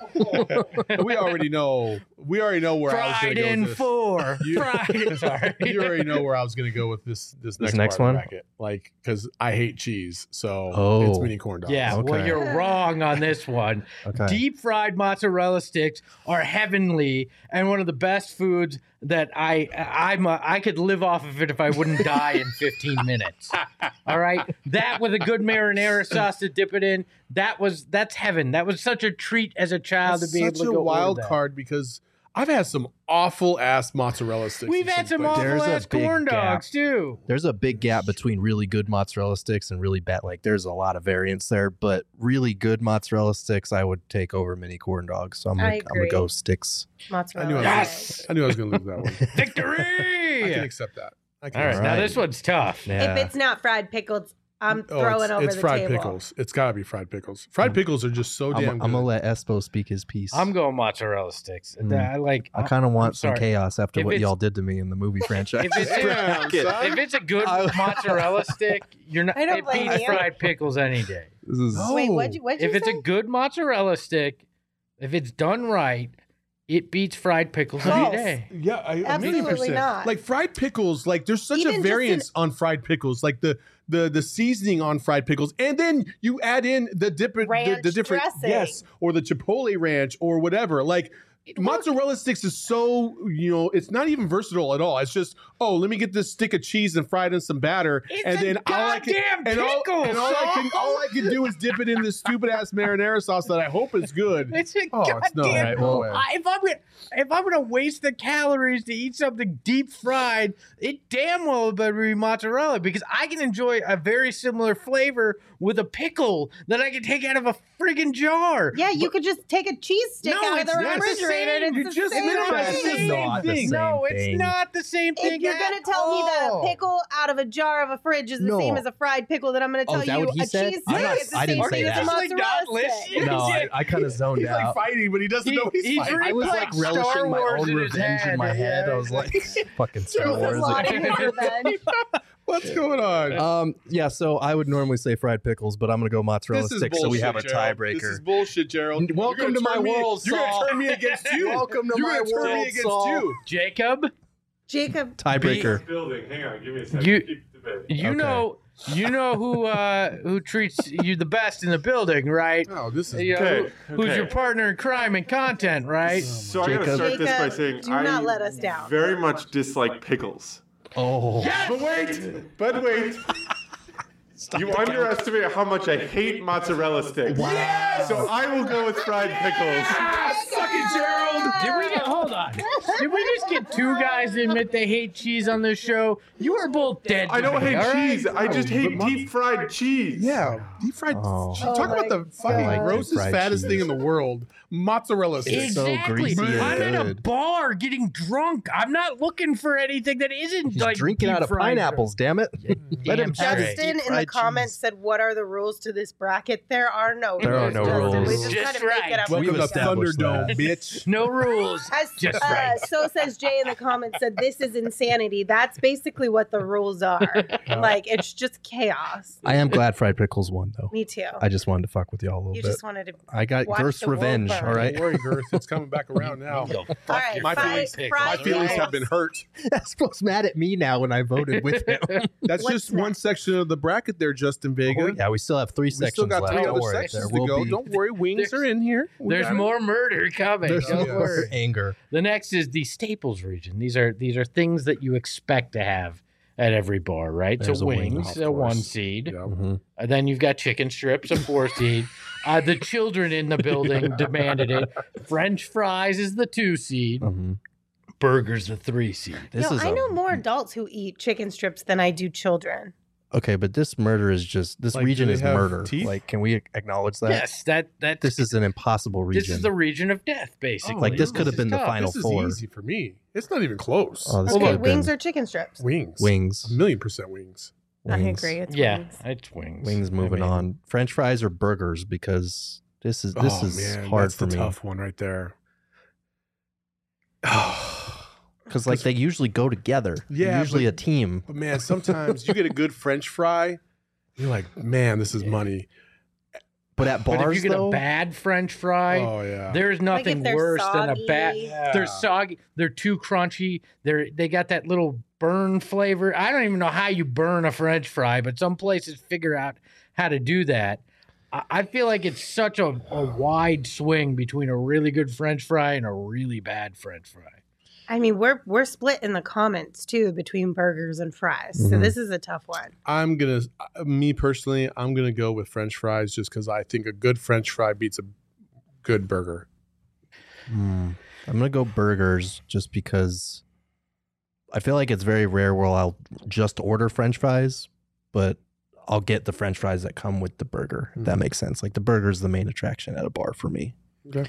we, we already know. We already know where I was fried going to go in with this. four. You- Fried. Sorry. You already know where I was going to go with this. This next, This next part of the one? bracket. Like, because I hate cheese, so Oh. it's mini corn dogs. Yeah, well, Okay. you're wrong on this one. Okay. Deep fried mozzarella sticks are heavenly and one of the best foods that I I'm a, I could live off of it if I wouldn't die in fifteen minutes. All right, that with a good marinara sauce to dip it in. That was that's heaven. That was such a treat as a child That's to be able such to a go wild order that. card because I've had some awful ass mozzarella sticks. We've in had some places. There's awful a ass big corn gap. dogs too. There's a big gap between really good mozzarella sticks and really bad. Like, there's a lot of variance there, but really good mozzarella sticks, I would take over mini corn dogs. So I'm I gonna, I'm gonna agree. go sticks. Mozzarella. I knew I was, Yes! I knew I was going to lose that one. Victory! I can accept that. I can All right, accept now Right. this one's tough. Yeah. If it's not fried pickles, I'm Oh, throwing it's, over it's the fried table. pickles. It's got to be fried pickles. Fried pickles are just so I'm, damn I'm good. gonna let Espo speak his piece. I'm going mozzarella sticks. Mm. I like. I kind of want some sorry. chaos after If what it's- y'all did to me in the movie franchise. If it's, Damn, son. if it's a good I- mozzarella stick, you're not. I don't It blame beats you. fried pickles any day. This is No. Wait, what'd you, what'd you If it's say? a good mozzarella stick, if it's done right, it beats fried pickles False. any day. Yeah, I, a million Absolutely percent. not. Like fried pickles, like there's such Even a just variance on fried pickles, like the the the seasoning on fried pickles, and then you add in the different the, Ranch the different dressing. yes, or the chipotle ranch or whatever. Like mozzarella sticks is so you know it's not even versatile at all. It's just oh let me get this stick of cheese and fry it in some batter, It's and a then all I can goddamn and all, pickle, and all I can son. all I can do is dip it in this stupid ass marinara sauce that I hope is good. It's a Oh, it's no, goddamn. right, no way. I- if I'm gonna if I'm gonna waste the calories to eat something deep fried, it damn well better be mozzarella because I can enjoy a very similar flavor with a pickle that I can take out of a friggin' jar. Yeah, you could just take a cheese stick No, out of it's the not the refrigerator same. and You it's the just same minimize That's the thing. same not the thing. same No, it's thing. not the same thing. If you're at gonna tell me that all. a pickle out of a jar of a fridge is the No. same as a fried pickle, then I'm gonna Oh, tell is that you what he a said? cheese I'm stick not- is the I same didn't say thing as that. a Like, not mozzarella stick. listen. no, I, I kind of zoned He's out. like fighting, but he doesn't He- know he's, he's fighting. really I was like like Star relishing my Wars own in his revenge in head. my head. Yeah, I was he's like, fucking Star Choose a Wars. lot of your revenge. What's going on? Um, yeah, so I would normally say fried pickles, but I'm gonna go mozzarella This is sticks, so we bullshit, have a Gerald. tiebreaker. This is bullshit, Gerald. Welcome You're to gonna my turn me- world, You're going Saul. to turn me against you. Welcome to You're my gonna turn me world, against Saul. you. Jacob, Jacob, Tiebreaker. Building. Hang on, give me a second. You- Keep debating. you Okay. know, you know who uh, who treats you the best in the building, right? Oh, this is You know, Okay, who- Who's okay. your partner in crime and content, right? So I gotta Jacob. start this by Jacob, saying do I not let us down. very much dislike pickles. Oh, But wait, but wait. You underestimate how much I hate mozzarella sticks. Wow. So I will go with fried pickles. Suck it, Gerald. Did we get, hold on? Did we just get two guys to admit they hate cheese on this show? You are both dead. I to don't me, hate all right? cheese. I just but hate mon- deep fried cheese. Yeah, deep fried. Oh. Talk Oh about my the fucking God. grossest, Fried fattest cheese. thing in the world. Mozzarella sticks. It's so Exactly. greasy and I'm at a good. bar getting drunk. I'm not looking for anything that isn't he's like drinking deep out of fried. pineapples. Damn it! Let him Damn have his straight. Justin deep in the fried comments cheese. said, "What are the rules to this bracket?" There are no There are rules. no Justin. rules. We just, Just kind of make right. it up. Welcome We've to established Thunderdome, that. bitch. No rules. As, Just uh, right. So says Jay in the comments said, "This is insanity." That's basically what the rules are. Like it's just chaos. I am glad fried pickles won, though. Me too. I just wanted to fuck with y'all a little You bit. just wanted to. I got watch Girth's the world revenge. burn. All right. Don't worry, Girth. It's coming back around now. Go fuck All right, your My fried- feelings, pickles, fried my feelings pickles. have been hurt. Espo's mad at me now when I voted with him. That's What's just one next? section of the bracket there, Justin Vega. Oh, yeah, we still have three We sections still got left. three Don't other worry. sections There to will go. be. Don't worry, wings There's- are in here. We There's got it. more murder coming. There's Don't yeah. worry. anger. The next is the Staples region. These are these are things that you expect to have at every bar, right? There's so a wing, wings, of a one course. seed. Yeah. Mhm. Uh, then you've got chicken strips, a four seed. Uh, the children in the building demanded it. French fries is the two seed. Mhm. Burgers the three seed. This Yo, is I a- know more adults who eat chicken strips than I do children. Okay, but this murder is just this Like, do region they is have murder. teeth? Like, can we acknowledge that? Yes, that that This is an impossible region. this is the region of death, basically. Like, this could have is been the tough. final This is four. easy for me. It's not even close. Oh, this Okay, could have wings been or chicken strips? Wings. wings. A million percent wings. I Wings. agree. It's Yeah, wings. it's wings. Wings. I Moving mean, on. French fries or burgers because this is this oh, is man, hard that's for the me. tough one right there. Because like they usually go together. They're Yeah, usually but- a team. But man, sometimes you get a good French fry, you're like, man, this is money. But at But bars if you get though, a bad French fry, Oh yeah. there's Like if nothing they're worse than a bad. soggy. They're soggy. They're too crunchy. They're they got that little burn flavor. I don't even know how you burn a French fry, but some places figure out how to do that. I, I feel like it's such a, a wide swing between a really good French fry and a really bad French fry. I mean, we're we're split in the comments too between burgers and fries. So Mhm. this is a tough one. I'm gonna, me personally, I'm gonna go with French fries just because I think a good French fry beats a good burger. Hmm. I'm gonna go burgers just because I feel like it's very rare where I'll just order French fries, but I'll get the French fries that come with the burger. If that Mhm. makes sense. Like the burger is the main attraction at a bar for me. Okay.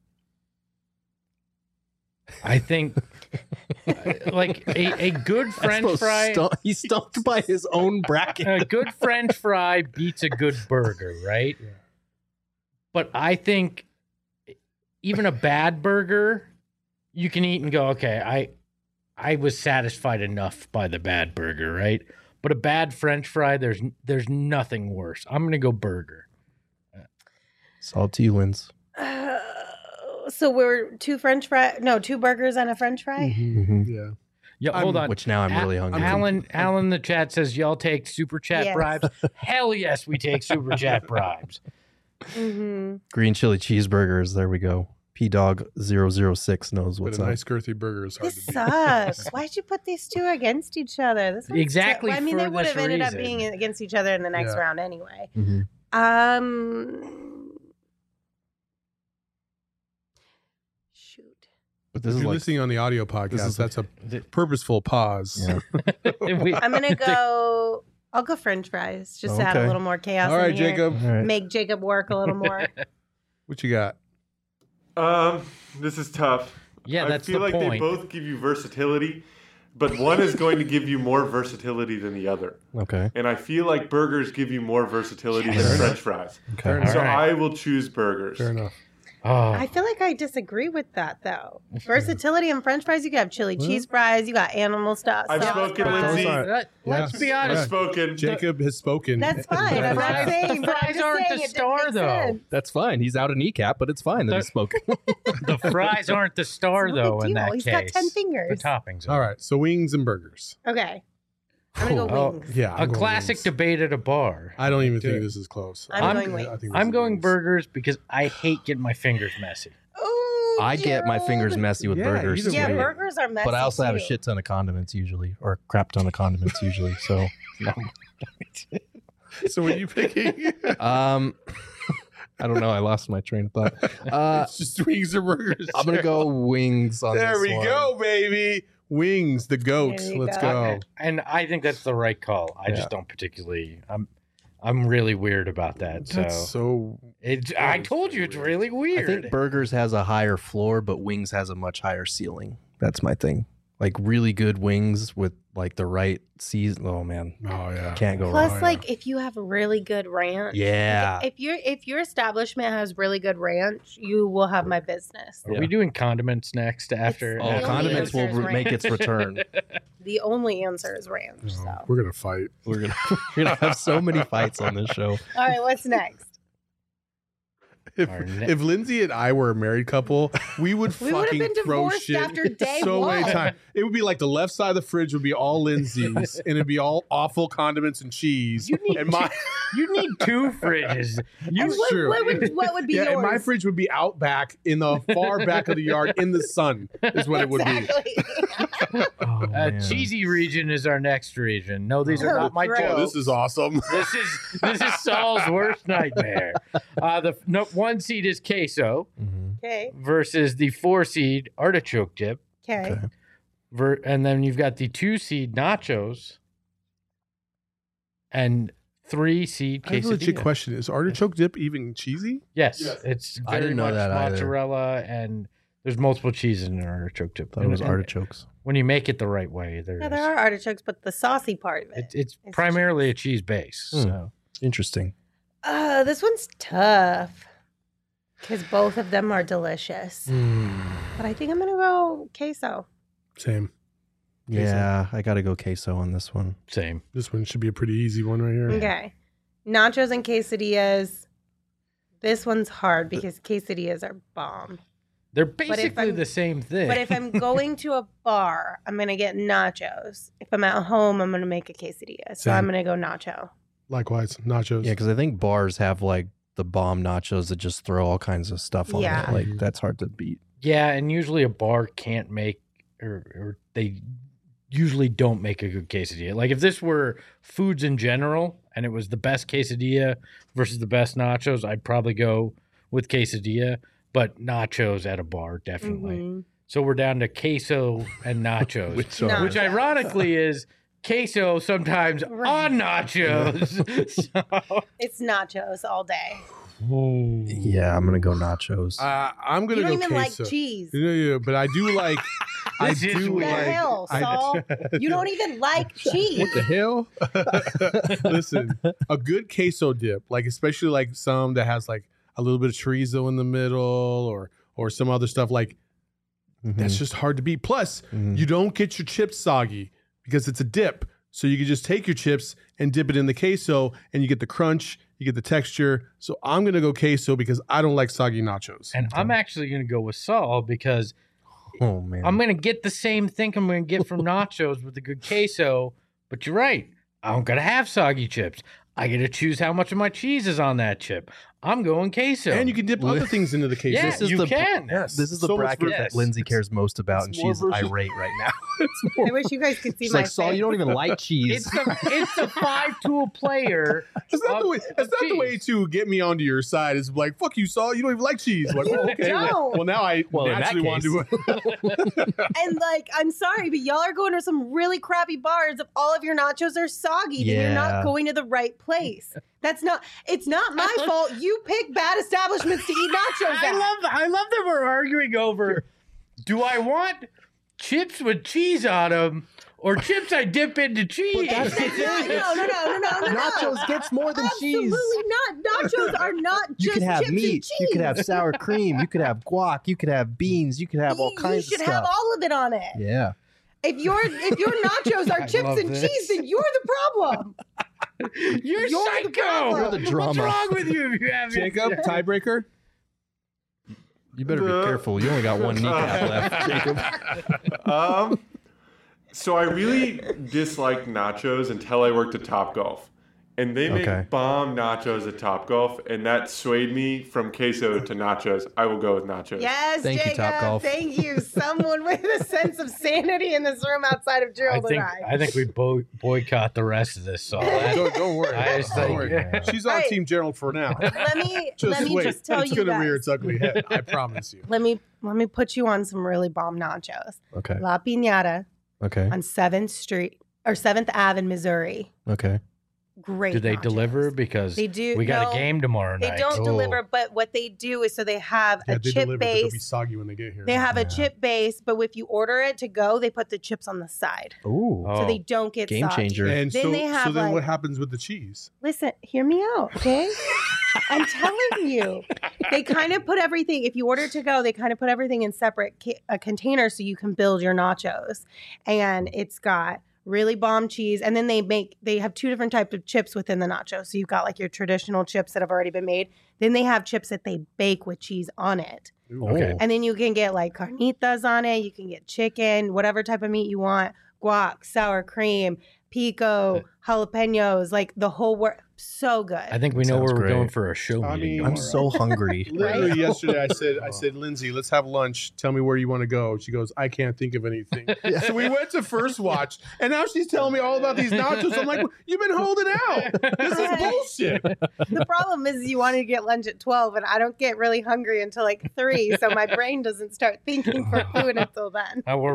I think uh, like a, a good French fry. he's stumped by his own bracket. A good French fry beats a good burger, right? Yeah. But I think even a bad burger, you can eat and go, okay, I I was satisfied enough by the bad burger, right? But a bad French fry, there's there's nothing worse. I'm gonna go burger. Salty wins. Uh, so we're two French fry, no, two burgers and a French fry. Mhm. Yeah. Yeah, hold I'm- on. Which now I'm Al- really hungry. Alan, Alan, in the chat says y'all take super chat Yes. bribes. Hell yes, we take super chat bribes. Mm-hmm. Green chili cheeseburgers. There we go. P Dog zero zero six knows But what's a up. nice girthy burger is hard This to beat. sucks. Why'd you put these two against each other? This one's Exactly ter- I mean, for they would this have ended up reason. being against each other in the next Yeah. round anyway. Mhm. Um, shoot. But this If is you're like listening on the audio podcast, is- that's a purposeful pause. Yeah. We- I'm gonna go. I'll go French fries just to add a Okay. little more chaos. All right, in here. Jacob, All right. Make Jacob work a little more. what you got? Um, this is tough. Yeah, that's I feel the like point. they both give you versatility, but one is going to give you more versatility than the other. Okay. And I feel like burgers give you more versatility than French fries. Okay. All So right. I will choose burgers. Fair enough. Oh, I feel like I disagree with that though. Versatility in French fries, you can have chili cheese fries, you got animal stuff. I've sauce spoken, fries. Lindsay. are- Let, us Yeah. be I've honest. spoken. Jacob has spoken. That's fine. I'm not fries- saying, the but I'm fries just aren't saying the it didn't star, make though. sense. That's fine. He's out a kneecap, but it's fine that he's spoken. The fries aren't the star, It's no though, big in deal. that He's case. got ten The fingers. toppings. are. All right, so wings and burgers. Okay. I'm gonna go Oh, wings. Yeah, A I'm going classic wings. debate at a bar. I don't even Do think it. this is close. I'm I'm- going wings. I think this I'm is going wings. burgers because I hate getting my fingers messy. Ooh, I get my fingers Gerald. messy with Yeah, burgers. either Yeah, too. way. burgers are messy. But I also have a too. shit ton of condiments usually, or a crap ton of condiments usually. So, So what are you picking? um, I don't know. I lost my train of thought. Uh, it's just wings or burgers. I'm gonna go wings on There this we one. go, baby. Wings, the goats. There you Let's go. go. And I think that's the right call. I Yeah. just don't particularly. I'm, I'm really weird about that. So, That's so. it, I told you it's really I weird. think burgers has a higher floor, but wings has a much higher ceiling. That's my thing. Like really good wings with like the right season. Oh man, Oh yeah. can't go Plus, wrong. yeah. like if you have really good ranch, Yeah. like, if your if your establishment has really good ranch, you will have my business. Are we doing condiments next after? It's Oh, the after only condiments will answer is re- make ranch. its return. The only answer is ranch. Oh, So, we're gonna fight. We're gonna we're gonna have so many fights on this show. all right, what's next? If, Our ne- if Lindsay and I were a married couple, we would We would have fucking been throw divorced shit after day so one. many times. It would be like the left side of the fridge would be all Lindsay's, and it'd be all awful condiments and cheese. You need and my You need two fridges. You And what, true. what would what would be yeah, yours? and my fridge would be out back in the far back of the yard in the sun. Is what it would be. exactly. Oh, uh, man. cheesy region is our next region. No, these are Oh, not my gross. jokes. Oh, this is awesome. This is this is Saul's worst nightmare. Uh, the no, one seed is queso Mhm. Okay. versus the four seed artichoke dip, Okay. Okay. ver- and then you've got the two seed nachos and three seed I have a legit quesadilla. question: is artichoke dip even cheesy? Yes, Yes. it's very I didn't know much that either. mozzarella, and there's multiple cheeses in an artichoke dip. Thought it was And- and artichokes. When you make it the right way, there Yeah, is. there are artichokes, but the saucy part of it. It, it's It's primarily a cheese base. Hmm. So Interesting. Uh, this one's tough because both of them are delicious. But I think I'm gonna go queso. Same. Yeah, I got to go queso on this one. same. This one should be a pretty easy one right here. Okay, nachos and quesadillas. This one's hard because quesadillas are bomb. They're if basically I'm- the same thing. But if I'm going to a bar, I'm gonna get nachos. If I'm at home, I'm gonna make a quesadilla. So Same. I'm gonna go nacho. Likewise, nachos. Yeah, because I think bars have like the bomb nachos that just throw all kinds of stuff on Yeah. it. Like that's hard to beat. yeah, and usually a bar can't make, or, or they usually don't make a good quesadilla. Like if this were foods in general and it was the best quesadilla versus the best nachos, I'd probably go with quesadilla. But nachos at a bar, definitely. Mhm. So we're down to queso and nachos, Which which, are- Nachos. ironically is queso sometimes Right. on nachos. So- It's nachos all day. Yeah, I'm gonna go nachos. Uh, I'm gonna You don't go even queso. like cheese. Yeah, yeah, but I do like. I This is do What the weird. like. hell, I- Saul? You don't even like cheese. What the hell? Listen, a good queso dip, like especially like some that has like a little bit of chorizo in the middle, or or some other stuff like Mhm. that's just hard to beat. Plus, Mhm. you don't get your chips soggy because it's a dip. So you can just take your chips and dip it in the queso, and you get the crunch, you get the texture. So I'm gonna go queso because I don't like soggy nachos. and I'm actually going to go with Saul because Oh man. I'm going to get the same thing I'm going to get from nachos with a good queso. But you're right. I'm going to have soggy chips. I get to choose how much of my cheese is on that chip. I'm going queso. And you can dip other things into the queso. Yeah, This is you the- can. Yes. This is the So much bracket ver- that yes. Lindsay cares most about, and It's more she's versus- irate right now. I wish you guys could see She's my like, Saul, face. you don't even like It's cheese. the it's the five tool player. That's not, of- the way, that's of not the way cheese. to get me onto your side. It's like, fuck you, Saul. You don't even like cheese. Like, You oh, okay. Well, don't. well, now I Well, in that naturally want to. And like, I'm sorry, but y'all are going to some really crappy bars. If all of your nachos are soggy, then you're Yeah. not going to the right place. That's not. It's not my fault. You pick bad establishments to eat nachos I at. love I love that we're arguing over do I want chips with cheese on them or chips I dip into cheese? that's the thing. No, no, no, no, no, no, no. Nachos gets more than cheese. Absolutely not. Nachos are not You just could have chips and meat. cheese. You could have sour cream. You could have guac. You could have beans. You could have all You- kinds You should of stuff. have all of it on it. Yeah. If your if your nachos are I chips love and this. cheese, then you're the problem. You're, You're the psycho. problem. You're the What's drama. wrong with you if you have Jacob, tiebreaker. You better The- be careful. You only got one kneecap left, Jacob. Um, so I really disliked nachos until I worked at Topgolf. And they make Okay. bomb nachos at Topgolf, and that swayed me from queso to nachos. I will go with nachos. Yes, Thank you, Jacob. Topgolf. Thank you. Someone with a sense of sanity in this room outside of I Gerald think and I. I think we bo- boycott the rest of this song. Don't, don't worry. I just Don't think- worry. She's on Right. Team Gerald for now. let me Just let me wait. just tell it's you gonna guys. rear its ugly head. I promise you. Let me let me put you on some really bomb nachos. Okay. La Piñata Okay. on seventh Street or seventh Ave in Missouri. Okay. Great. Do they nachos. deliver? Because They do- we got no, a game tomorrow They night. don't Oh. deliver, but what they do is so they have Yeah, a they chip deliver, but they'll be base. soggy when they get here. They have a Yeah. chip base, but if you order it to go, they put the chips on the side, Ooh. Oh. so they don't get Game soggy. changer. and Then so, they have, so then like- what happens with the cheese? Listen, hear me out, okay? I'm telling you. They kind of put everything, if you order to go, they kind of put everything in separate ca- uh, containers so you can build your nachos. And it's got really bomb cheese. And then they make, they have two different types of chips within the nachos. So you've got like your traditional chips that have already been made. Then they have chips that they bake with cheese on it. Okay. And then you can get like carnitas on it. You can get chicken, whatever type of meat you want, guac, sour cream, pico, jalapenos, like the whole work. So good. I think we know Sounds where we're great. going for a show I meeting. mean- I'm tomorrow. so hungry. Literally Right? yesterday, I said, I said, Lindsay, let's have lunch. Tell me where you want to go. She goes, I can't think of anything. So we went to First Watch, and now she's telling me all about these nachos. I'm like, you've been holding out. This is Right. bullshit. The problem is you want to get lunch at twelve, and I don't get really hungry until like three, so my brain doesn't start thinking for food until then. Uh, we're right.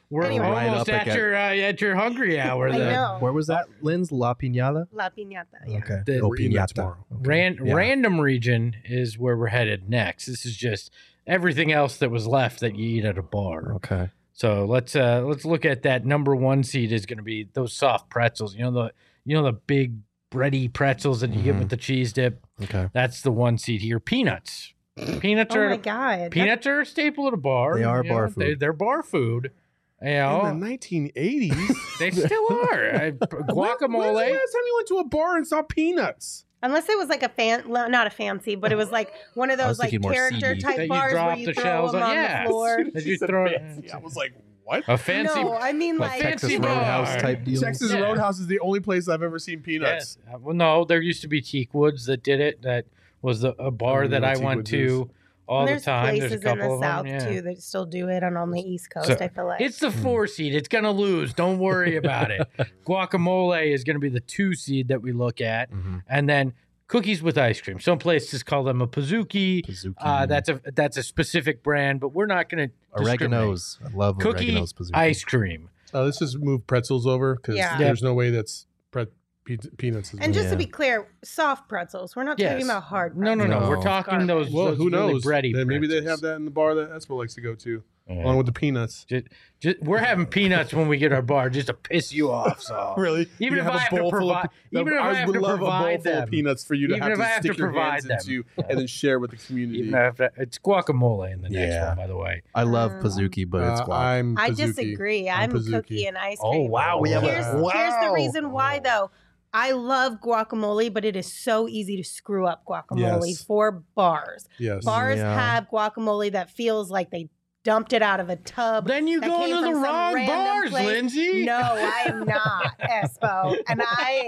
We're Anyway. Right almost up at against- your uh, at your hungry hour. I then. know. Where was that, Lynn's? La Piñata? La Piñata. Yeah. Okay. The- oh, We're eating that Piñata. tomorrow. Okay. Ran, Yeah. Random region is where we're headed next. This is just everything else that was left that you eat at a bar. Okay. So let's uh let's look at that. Number one seed is going to be those soft pretzels. You know the you know the big bready pretzels that you get Mhm. with the cheese dip. Okay. That's the one seed here. Peanuts. Peanuts Oh are my god. peanuts are a staple at a bar. They are you bar know, They, food. they're bar food. You In know, the nineteen eighties. they still are. I- When's the Guacamole. last time you went to a bar and saw peanuts? Unless it was like a fan, well, not a fancy, but it was like one of I those was like thinking more character seedy. type That you bars where drop you the throw shells them on- on yeah. the floor. That you Said throw fancy. I was like, what? a fancy. No, I mean Like like Texas fancy Roadhouse bar. type deal. Texas Yeah. Roadhouse is the only place I've ever seen peanuts. Yes. Uh, Well, no, there used to be Teak Woods that did it. That was the, a bar don't that know I what Teak went Woods to all And the there's time. places There's a in couple the of south them. Yeah. too that still do it, and on the East Coast, So, I feel like It's the four seed. It's gonna lose. Don't worry about it. Guacamole is gonna be the two seed that we look at, Mhm. and then cookies with ice cream. Some places call them a Pizookie. Pizookie. Uh, that's a that's a specific brand, but we're not gonna discriminate. Oregano's. I love Cookie Oregano's Pizookie. ice cream. Uh, let's just move pretzels over because Yeah. there's no way that's pre- pe- peanuts. Is And just to Yeah. be clear, soft pretzels. We're not Yes. talking about hard No, pretzels. no, no. No. We're talking those. well, those who really knows? bready Then maybe they pretzels. have that in the bar that Espo likes to go to, Yeah. along with the peanuts. Just, just, we're having peanuts when we get our bar just to piss you off. So Really? Even You if have I a have to bowl full of provide- pe- even if I have would to love a bowl provide full them. of peanuts for you to Even have if to I have stick to your provide hands them. into and then share with the community. even if it's guacamole in the next Yeah. one, by the way. I love Um, Pizookie, but it's Uh, guac. I'm I Pizookie. disagree. I'm, I'm Pizookie. cookie and ice Oh, cream. wow, we have a- here's, here's the wow. reason why, though. I love guacamole, but it is so easy to screw up guacamole Yes. for bars. Yes. Bars Yeah. have guacamole that feels like they dumped it out of a tub. Then you that go came to the from some wrong random bars, place. Lindsay. No, I am not, Espo. And I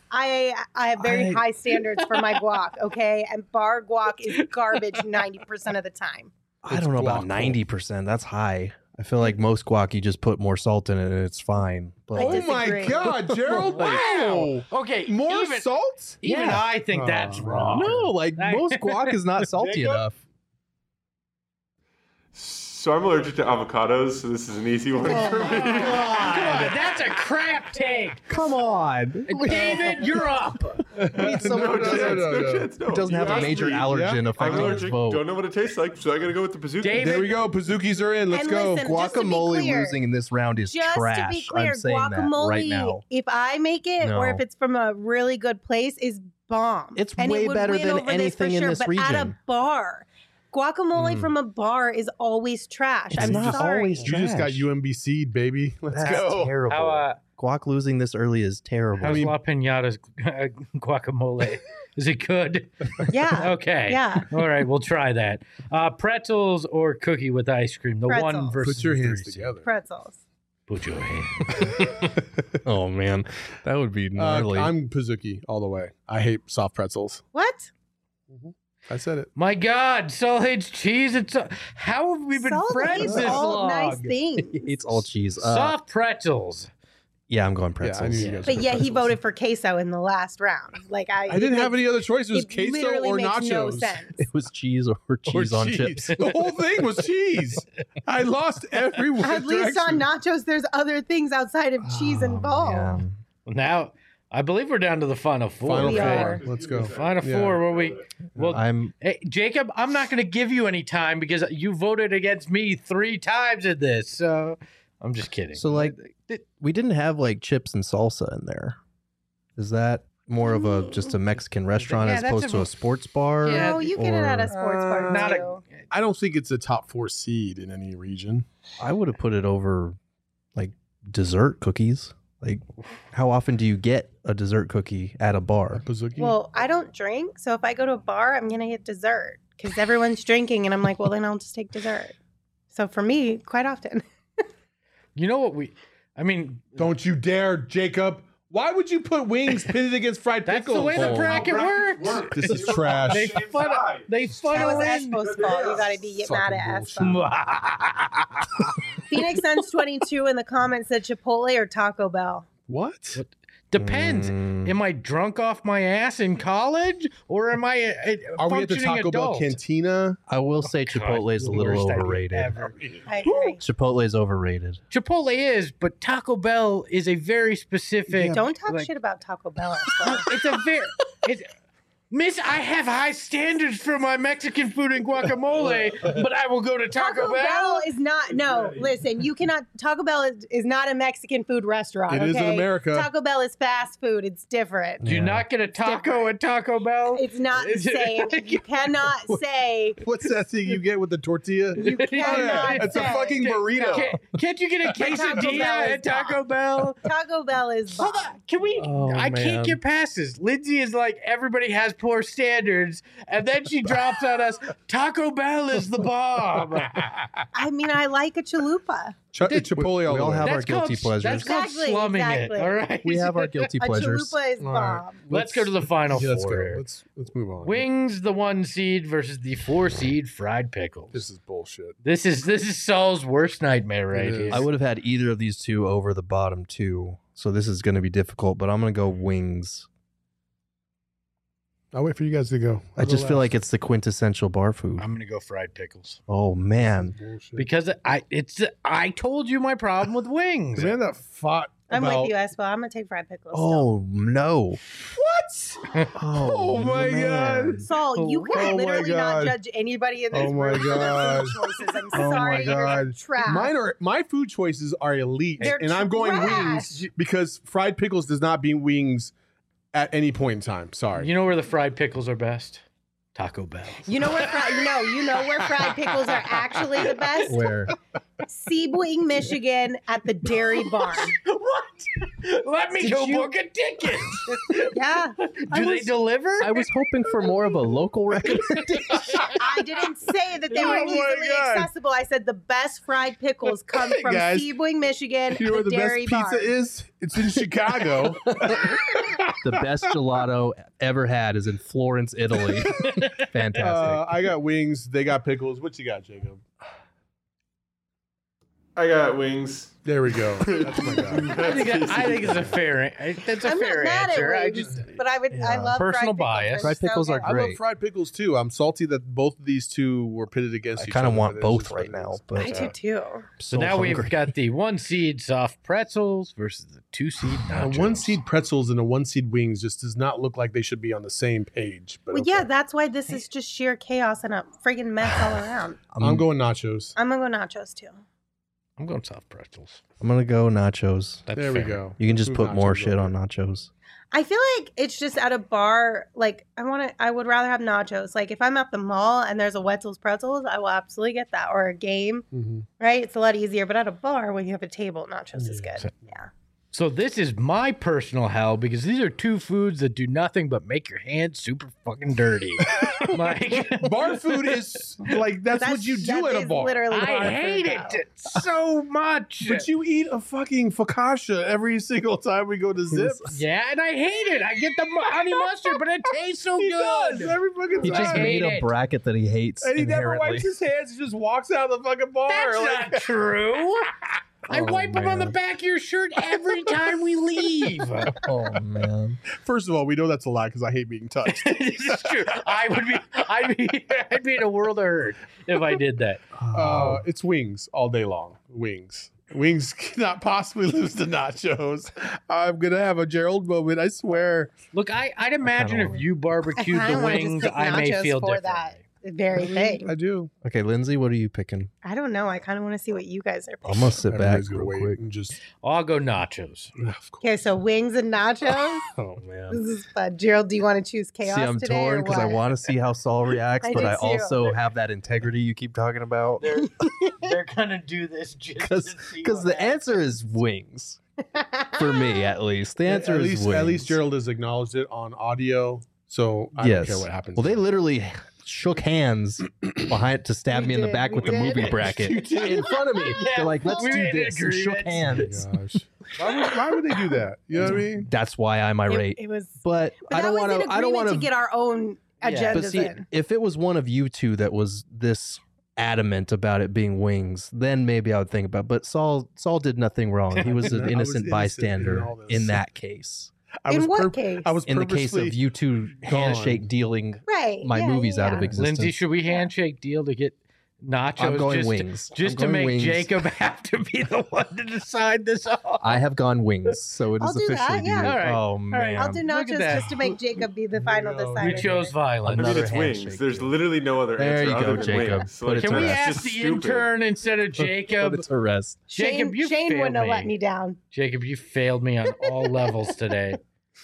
I I have very I- high standards for my guac, okay? And bar guac is garbage ninety percent of the time. I don't know about guac. ninety percent. That's high. I feel like most guac, you just put more salt in it and it's fine. But I Oh like, my disagree. God, Gerald! Wow. Okay, More even, salt? Even Yeah. I think that's Oh, wrong. no, like I- most guac is not salty Jacob? enough. So I'm allergic to avocados, so this is an easy one Oh, for me. Come on, that's a crap take. Come on. David, you're up. Need someone No, who no, doesn't- no, no, no. chance, no. who doesn't have You a asked major me. allergen Yeah. affecting I'm his allergic, vote. don't know what it tastes like, so I gotta go with the Pizookie. David- There we go. Pizookies are in. Let's And go. listen, just to be Guacamole clear- losing in this round is Just trash. to be clear, I'm saying guacamole, that right now. if I make it No. or if it's from a really good place, is bomb. It's and way it would better win than over anything this in for this sure, but at a region. bar, guacamole Mm. from a bar is always trash. It's I'm not sorry. always You just got trash. U M B C'd, baby. Let's That's go. terrible. How uh, Guac losing this early is terrible. how's mean- La Pinata's guacamole? Is it good? Yeah. Okay. Yeah. All right, we'll try that. Uh, pretzels or cookie with ice cream? The one Pretzels. versus Put your the hands three. together. Pretzels. Put your hand. oh man, that would be Uh, gnarly. I'm Pizookie all the way. I hate soft pretzels. What? I said it. My God, Solage cheese. It's uh, how have we been Solid friends is this all long? nice things. it's all cheese. Uh, Soft pretzels. yeah, I'm going Yeah, I pretzels. knew you Yeah. guys But were yeah, he pretzels. voted for queso in the last round. Like I, I didn't it have makes- any other choice. It was It queso literally or makes nachos. no sense. It was cheese or Or cheese on cheese. chips. The whole thing was cheese. I lost every one At least on nachos, there's other things outside of cheese Oh, involved. man. Now, I believe we're down to the final four. Final We four. are. Let's go. Final Yeah. four where we well I'm hey, Jacob, I'm not going to give you any time because you voted against me three times in this. So I'm just kidding. so like we didn't have like chips and salsa in there. Is that more of a just a Mexican restaurant Yeah, as that's opposed a- to a sports bar? Yeah, No, you get it at a Or- sports bar Uh, not a too. I don't think it's a top four seed in any region. I would have put it over like dessert cookies. Like, how often do you get a dessert cookie at a bar? Pizookie. Well, I don't drink, so if I go to a bar, I'm gonna get dessert because everyone's drinking, and I'm like, well, then I'll just take dessert. So for me, quite often. You know what we I mean, don't you dare, Jacob. Why would you put wings pitted against fried that's pickles? the way the Oh, bracket brackets works. work. This is trash. They funnel, they That funnel was in. Espo's fault. You gotta be get mad at Fucking Espo. Phoenix Suns twenty-two in the comments said Chipotle or Taco Bell. What? Depends. Mm. Am I drunk off my ass in college, or am I a, a Are we at the functioning Taco Bell adult? cantina? I will say Chipotle is a The little worst idea overrated. ever. I agree. Chipotle is overrated. Chipotle is, but Taco Bell is a very specific. Don't talk like- shit about Taco Bell. Espo. It's a very. It's, Miss, I have high standards for my Mexican food and guacamole, but I will go to Taco, Taco Bell Bell. is not. No, listen. You cannot. Taco Bell is, is not a Mexican food restaurant. It okay? is in America. Taco Bell is fast food. It's different. Do you Yeah. not get a taco at Taco Bell? It's not the Is it- same. You cannot say. What's that thing you get with the tortilla? You cannot It's a say. fucking burrito. Can't, can't you get a Taco quesadilla Bell is at Taco Bell? Taco Bell is. Hold bomb. on, can we? Oh, I man. can't get past this. Lindsay is like, everybody has poor standards, and then she drops on us, Taco Bell is the bomb. I mean, I like a chalupa. Ch- Chipotle all we all the way. have our That's guilty called, pleasures. That's called Exactly, slumming exactly. it. All right. We have our guilty A pleasures. chalupa is All right. bomb. Let's go to the final Yeah, let's four go. here. Let's let's move on. Wings, the one seed versus the four seed fried pickles. This is bullshit. This is this is Saul's worst nightmare right It is. here. I would have had either of these two over the bottom two, so this is going to be difficult. But I'm going to go wings. I'll wait for you guys to go. I just feel like it's the quintessential bar food. I'm gonna go fried pickles Oh man, bullshit. because I it's I told you my problem with wings. the man that fought I'm about, with you, Espo. I'm gonna take fried pickles. still. oh no, What? oh, Oh, my man. God. Saul, you can Oh my literally not God. judge anybody in this Oh my room for their God. food choices. I'm Oh my sorry, you're God. trash. Mine are my food choices are elite, They're and I'm going trash. wings because fried pickles does not beat wings at any point in time. Sorry. You know where the fried pickles are best? Taco Bell. You know where fried, you know, you know where fried pickles are actually the best? Where? Sebring, Michigan, at the Dairy Barn. What? Let me Did go you- book a ticket. Yeah, Do I they was- deliver? I was hoping for more of a local recommendation. I didn't say that they Oh were my easily God. accessible. I said the best fried pickles come Hey, from guys. Sebring, Michigan, You know where at the the Dairy best pizza Barn. is? It's in Chicago. The best gelato ever had is in Florence, Italy. Fantastic. Uh, I got wings. They got pickles. What you got, Jacob? I got wings. There we go. That's my guy. I think that, I think it's a fair. I- That's a I'm fair not mad answer. at I wings, just but I would. I Yeah. love Personal fried bias. Pickles. Fried They're pickles so are good. I love Great. fried pickles too. I'm salty that both of these two were pitted against I each kind other. of want but it's both just what right it now, is. but I do too. so now we've hungry. got the one seed soft pretzels versus the two seed Uh, nachos. one seed pretzels and a one seed wings just does not look like they should be on the same page. But Well, okay. yeah, that's why this is just sheer chaos and a friggin' mess all around. I'm, I'm going nachos. I'm gonna go nachos too. I'm going soft pretzels. I'm gonna go nachos. That's There we fair. go. You can just Move put more nachos shit over. on nachos. I feel like it's just at a bar. Like I want to. I would rather have nachos. Like if I'm at the mall and there's a Wetzel's Pretzels, I will absolutely get that. Or a game, Mhm. right? It's a lot easier. But at a bar, when you have a table, nachos is good. Yeah. So this is my personal hell because these are two foods that do nothing but make your hands super fucking dirty. Like Bar food is like that's, what you do that at a is bar. Literally, bar I food, hate though. it so much. But you eat a fucking focaccia every single time we go to Zips. Yeah, and I hate it. I get the mu- honey mustard, but it tastes so He good. does every fucking He time. just I made hate a it. bracket that he hates and he never inherently. wipes his hands. He just walks out of the fucking bar. That's like- not true. I Oh, wipe them on the man. back of your shirt every time we leave. Oh man. First of all, we know that's a lie because I hate being touched. This is true. I would be, I'd be, I'd be in a world of hurt if I did that. Uh, it's wings all day long. Wings. Wings cannot possibly lose to nachos. I'm gonna have a Gerald moment. I swear. Look, I, I'd imagine if wanna- you barbecued I the kinda wanna just wings, pick I may nachos feel for differently. that very thing. I do. Okay, Lindsay, what are you picking? I don't know. I kind of want to see what you guys are I'm picking. gonna sit back Everybody's gonna real wait quick. and just. I'll go nachos. Of course. Okay, so wings and nachos. Oh man. This is fun. Gerald, do you want to choose chaos See, I'm today? torn or because I what? want to see how Saul reacts, I but do I too. also have that integrity you keep talking about. They're they're gonna do this just Because to see because what the answer is wings for me, at least. The answer at is least, wings. At least Gerald has acknowledged it on audio, so I yes. don't care what happens. Well, they literally shook hands behind to stab We me in the did, back we with the did. movie You bracket did. in front of me. Yeah, They're like, "Let's we do made an this." And shook agreement. Oh hands. gosh. Why would, why would they do that? You know what I mean? That's why I'm It, irate. it was. But, But I that don't was want an to. I don't agreement want to get our own Yeah. agendas But see, in. if it was one of you two that was this adamant about it being wings, then maybe I would think about it. But Saul Saul did nothing wrong. He was I an was innocent innocent bystander in in, all this. that case. I In was what case? I was In the case purposely of you two handshake dealing Right. my yeah, movies yeah, out of yeah. existence. Lindsay, should we handshake deal to get nachos? I'm going just, wings. Just I'm to going make wings. Jacob have to be the one to decide this off. I have gone wings, so it I'll is do that, officially yeah. you. All right. Oh All right. man, I'll do Look at nachos that. just to make Jacob be the final go. decider. We chose violence. I mean, Another it's wings. handshake There's deal. literally no other There answer you other go, than Jacob. wings. Put it Can to we rest. ask it's the just stupid. intern instead of Put Jacob? it to rest. Shane, Jacob, you Shane wouldn't have failed let me. me down. Jacob, you failed me on all levels today.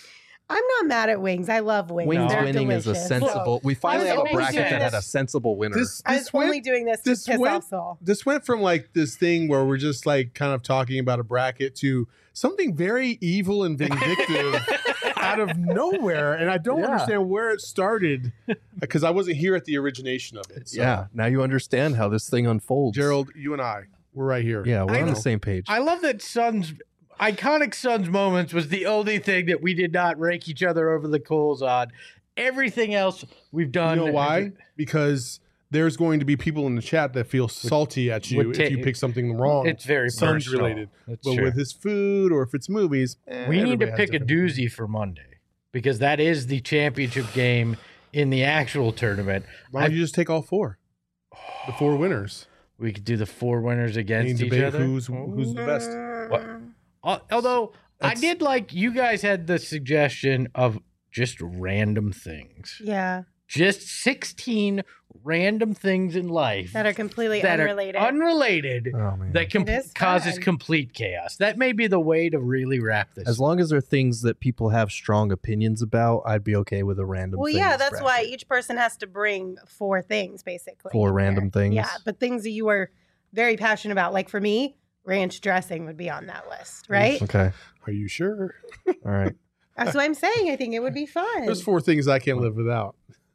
I'm not mad at wings. I love wings. Wings They're winning delicious. is a sensible. We finally I was have a only bracket doing that had this- a sensible winner. this I was this went, only doing this to this piss went- off Saul. this went from like this thing where we're just like kind of talking about a bracket to something very evil and vindictive out of nowhere, and I don't Yeah. understand where it started because I wasn't here at the origination of it. So, yeah, now you understand how this thing unfolds. Gerald, you and I, we're right here. Yeah, we're I on know. the same page. I love that Suns iconic Suns moments was the only thing that we did not rake each other over the coals on. Everything else we've You done. know why? Because there's going to be people in the chat that feel salty at you would if you ta- pick something wrong. It's very Suns personal. related. That's But true. with his food or if it's movies, eh, we need to everybody has pick a different- doozy for Monday because that is the championship game in the actual tournament. Why don't you just take all four? The four winners. We could do the four winners And against each debate other. who's who's the best. What? Al- Although I That's- did like you guys had the suggestion of just random things, Yeah, just sixteen random things in life that are completely that unrelated. are unrelated oh man. that com- It is causes fun. complete chaos. That may be the way to really wrap this. As long as they're things that people have strong opinions about, I'd be okay with a random. well, yeah, things that's why bracket. each person has to bring four things, basically. Four in random there. things? Yeah, but things that you are very passionate about. Like for me, ranch dressing would be on that list, right? Okay. Are you sure? All right. That's what I'm saying. I think it would be fun. There's four things I can't live without.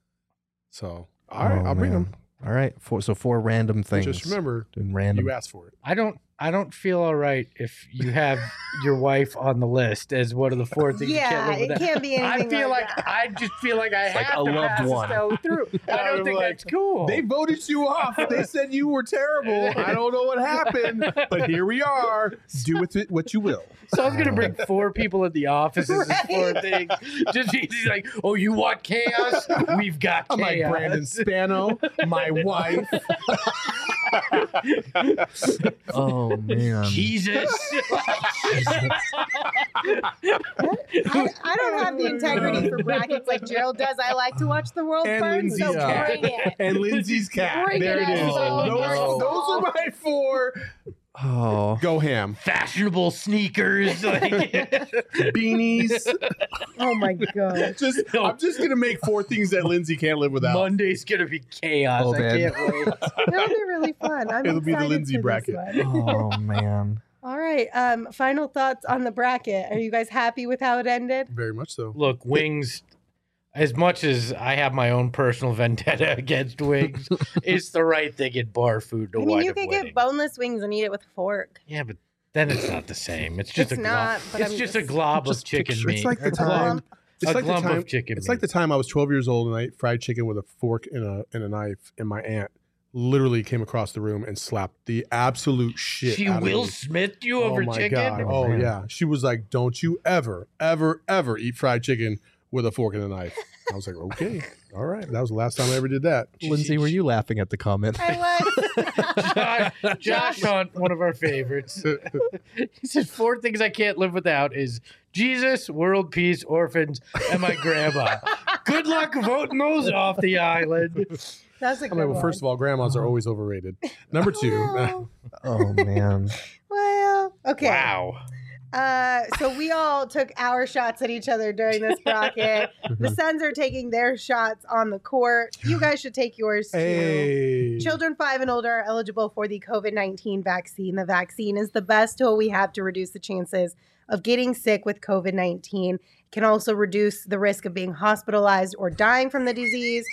So, all right, Oh, I'll bring man. them. All right. Four, so four random things. Just remember, Doing random. you asked for it. I don't. I don't feel all right if you have your wife on the list as one of the four things. you yeah, can't live it without. can't be I anything feel like, that. I just feel like I like have a to loved pass one. Estelle through. I don't I'm think like, that's cool. They voted you off. They said you were terrible. I don't know what happened, but here we are. Do with it what you will. So I was gonna bring four people at the office as this four things. Just he's like, oh, you want chaos? We've got I'm like chaos. Brandon Spano, my wife. Oh man. Jesus. I, I don't have the integrity for brackets like Gerald does. I like to watch the world And burn, so Lindsay's cat. bring it. And Lindsay's cat. Bring there it, it is. Estelle. Those, No. those are my four. Oh. Go ham. Fashionable sneakers. Like, Beanies. Oh my god. Just, I'm just gonna make four things that Lindsay can't live without. Monday's gonna be chaos. Oh, I man. can't wait. That'll be really fun. I'm It'll be the excited Lindsay for bracket. this one. Oh man. All right. Um, final thoughts on the bracket. Are you guys happy with how it ended? Very much so. Look, wings. As much as I have my own personal vendetta against wings, it's the right thing in bar food to I mean, wind you up could winning. get boneless wings and eat it with a fork. Yeah, but then it's not the same. It's just It's a not, glob. but It's I'm just a just- glob of just chicken picture- meat. It's like the A glob- time. It's a like the glump time. of chicken It's meat. like the time I was twelve years old and I ate fried chicken with a fork and a and a knife, and my aunt literally came across the room and slapped the absolute shit. She out of Will me. Smith you Oh over my chicken. god! Oh, Oh man. yeah, she was like, "Don't you ever, ever, ever eat fried chicken with a fork and a knife." I was like, "Okay, all right." That was the last time I ever did that. Lindsay, were you laughing at the comment? I was. Josh, Josh Hunt, one of our favorites. He said four things I can't live without is Jesus, world peace, orphans, and my grandma. Good luck voting those off the island. That's a I'm good like, well, one. first of all, grandmas are always overrated. Number two, Well, Oh man. well, okay. Wow. Uh, so we all took our shots at each other during this bracket. The Suns are taking their shots on the court. You guys should take yours too. hey, Children five and older are eligible for the COVID nineteen vaccine. The vaccine is the best tool we have to reduce the chances of getting sick with COVID nineteen. It can also reduce the risk of being hospitalized or dying from the disease.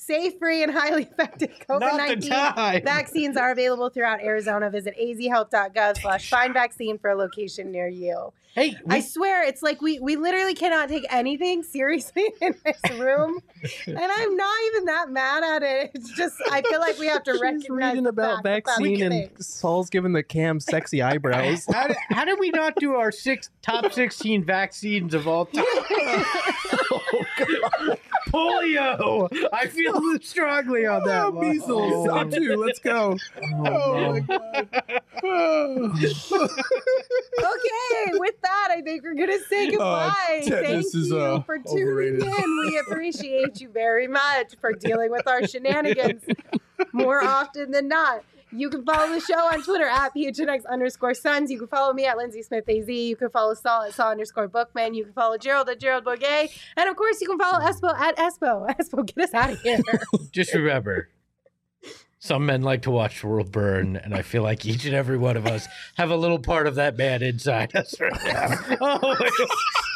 Safe, free, and highly effective COVID nineteen vaccines are available throughout Arizona. Visit azhealth.gov slash find vaccine for a location near you. Hey, we, I swear, it's like we, we literally cannot take anything seriously in this room. And I'm not even that mad at it. It's just, I feel like we have to She's recognize reading the about fact vaccine that and Saul's giving the cam sexy eyebrows. how, did, how did we not do our six top sixteen vaccines of all time? Oh, God. Polio. I feel strongly on that Oh, one. measles. Oh. Me too. Let's go. Oh my god. Okay, with that, I think we're gonna say goodbye. Thank tetanus is, you uh, for tuning overrated. in. We appreciate you very much for dealing with our shenanigans more often than not. You can follow the show on Twitter at P H N X underscore Sons. You can follow me at Lindsay Smith A Z. You can follow Saul at Saul underscore Bookman. You can follow Gerald at Gerald Bourget. And of course, you can follow Espo at Espo. Espo, get us out of here. Just remember, some men like to watch the world burn, and I feel like each and every one of us have a little part of that man inside us right now. Oh, my God.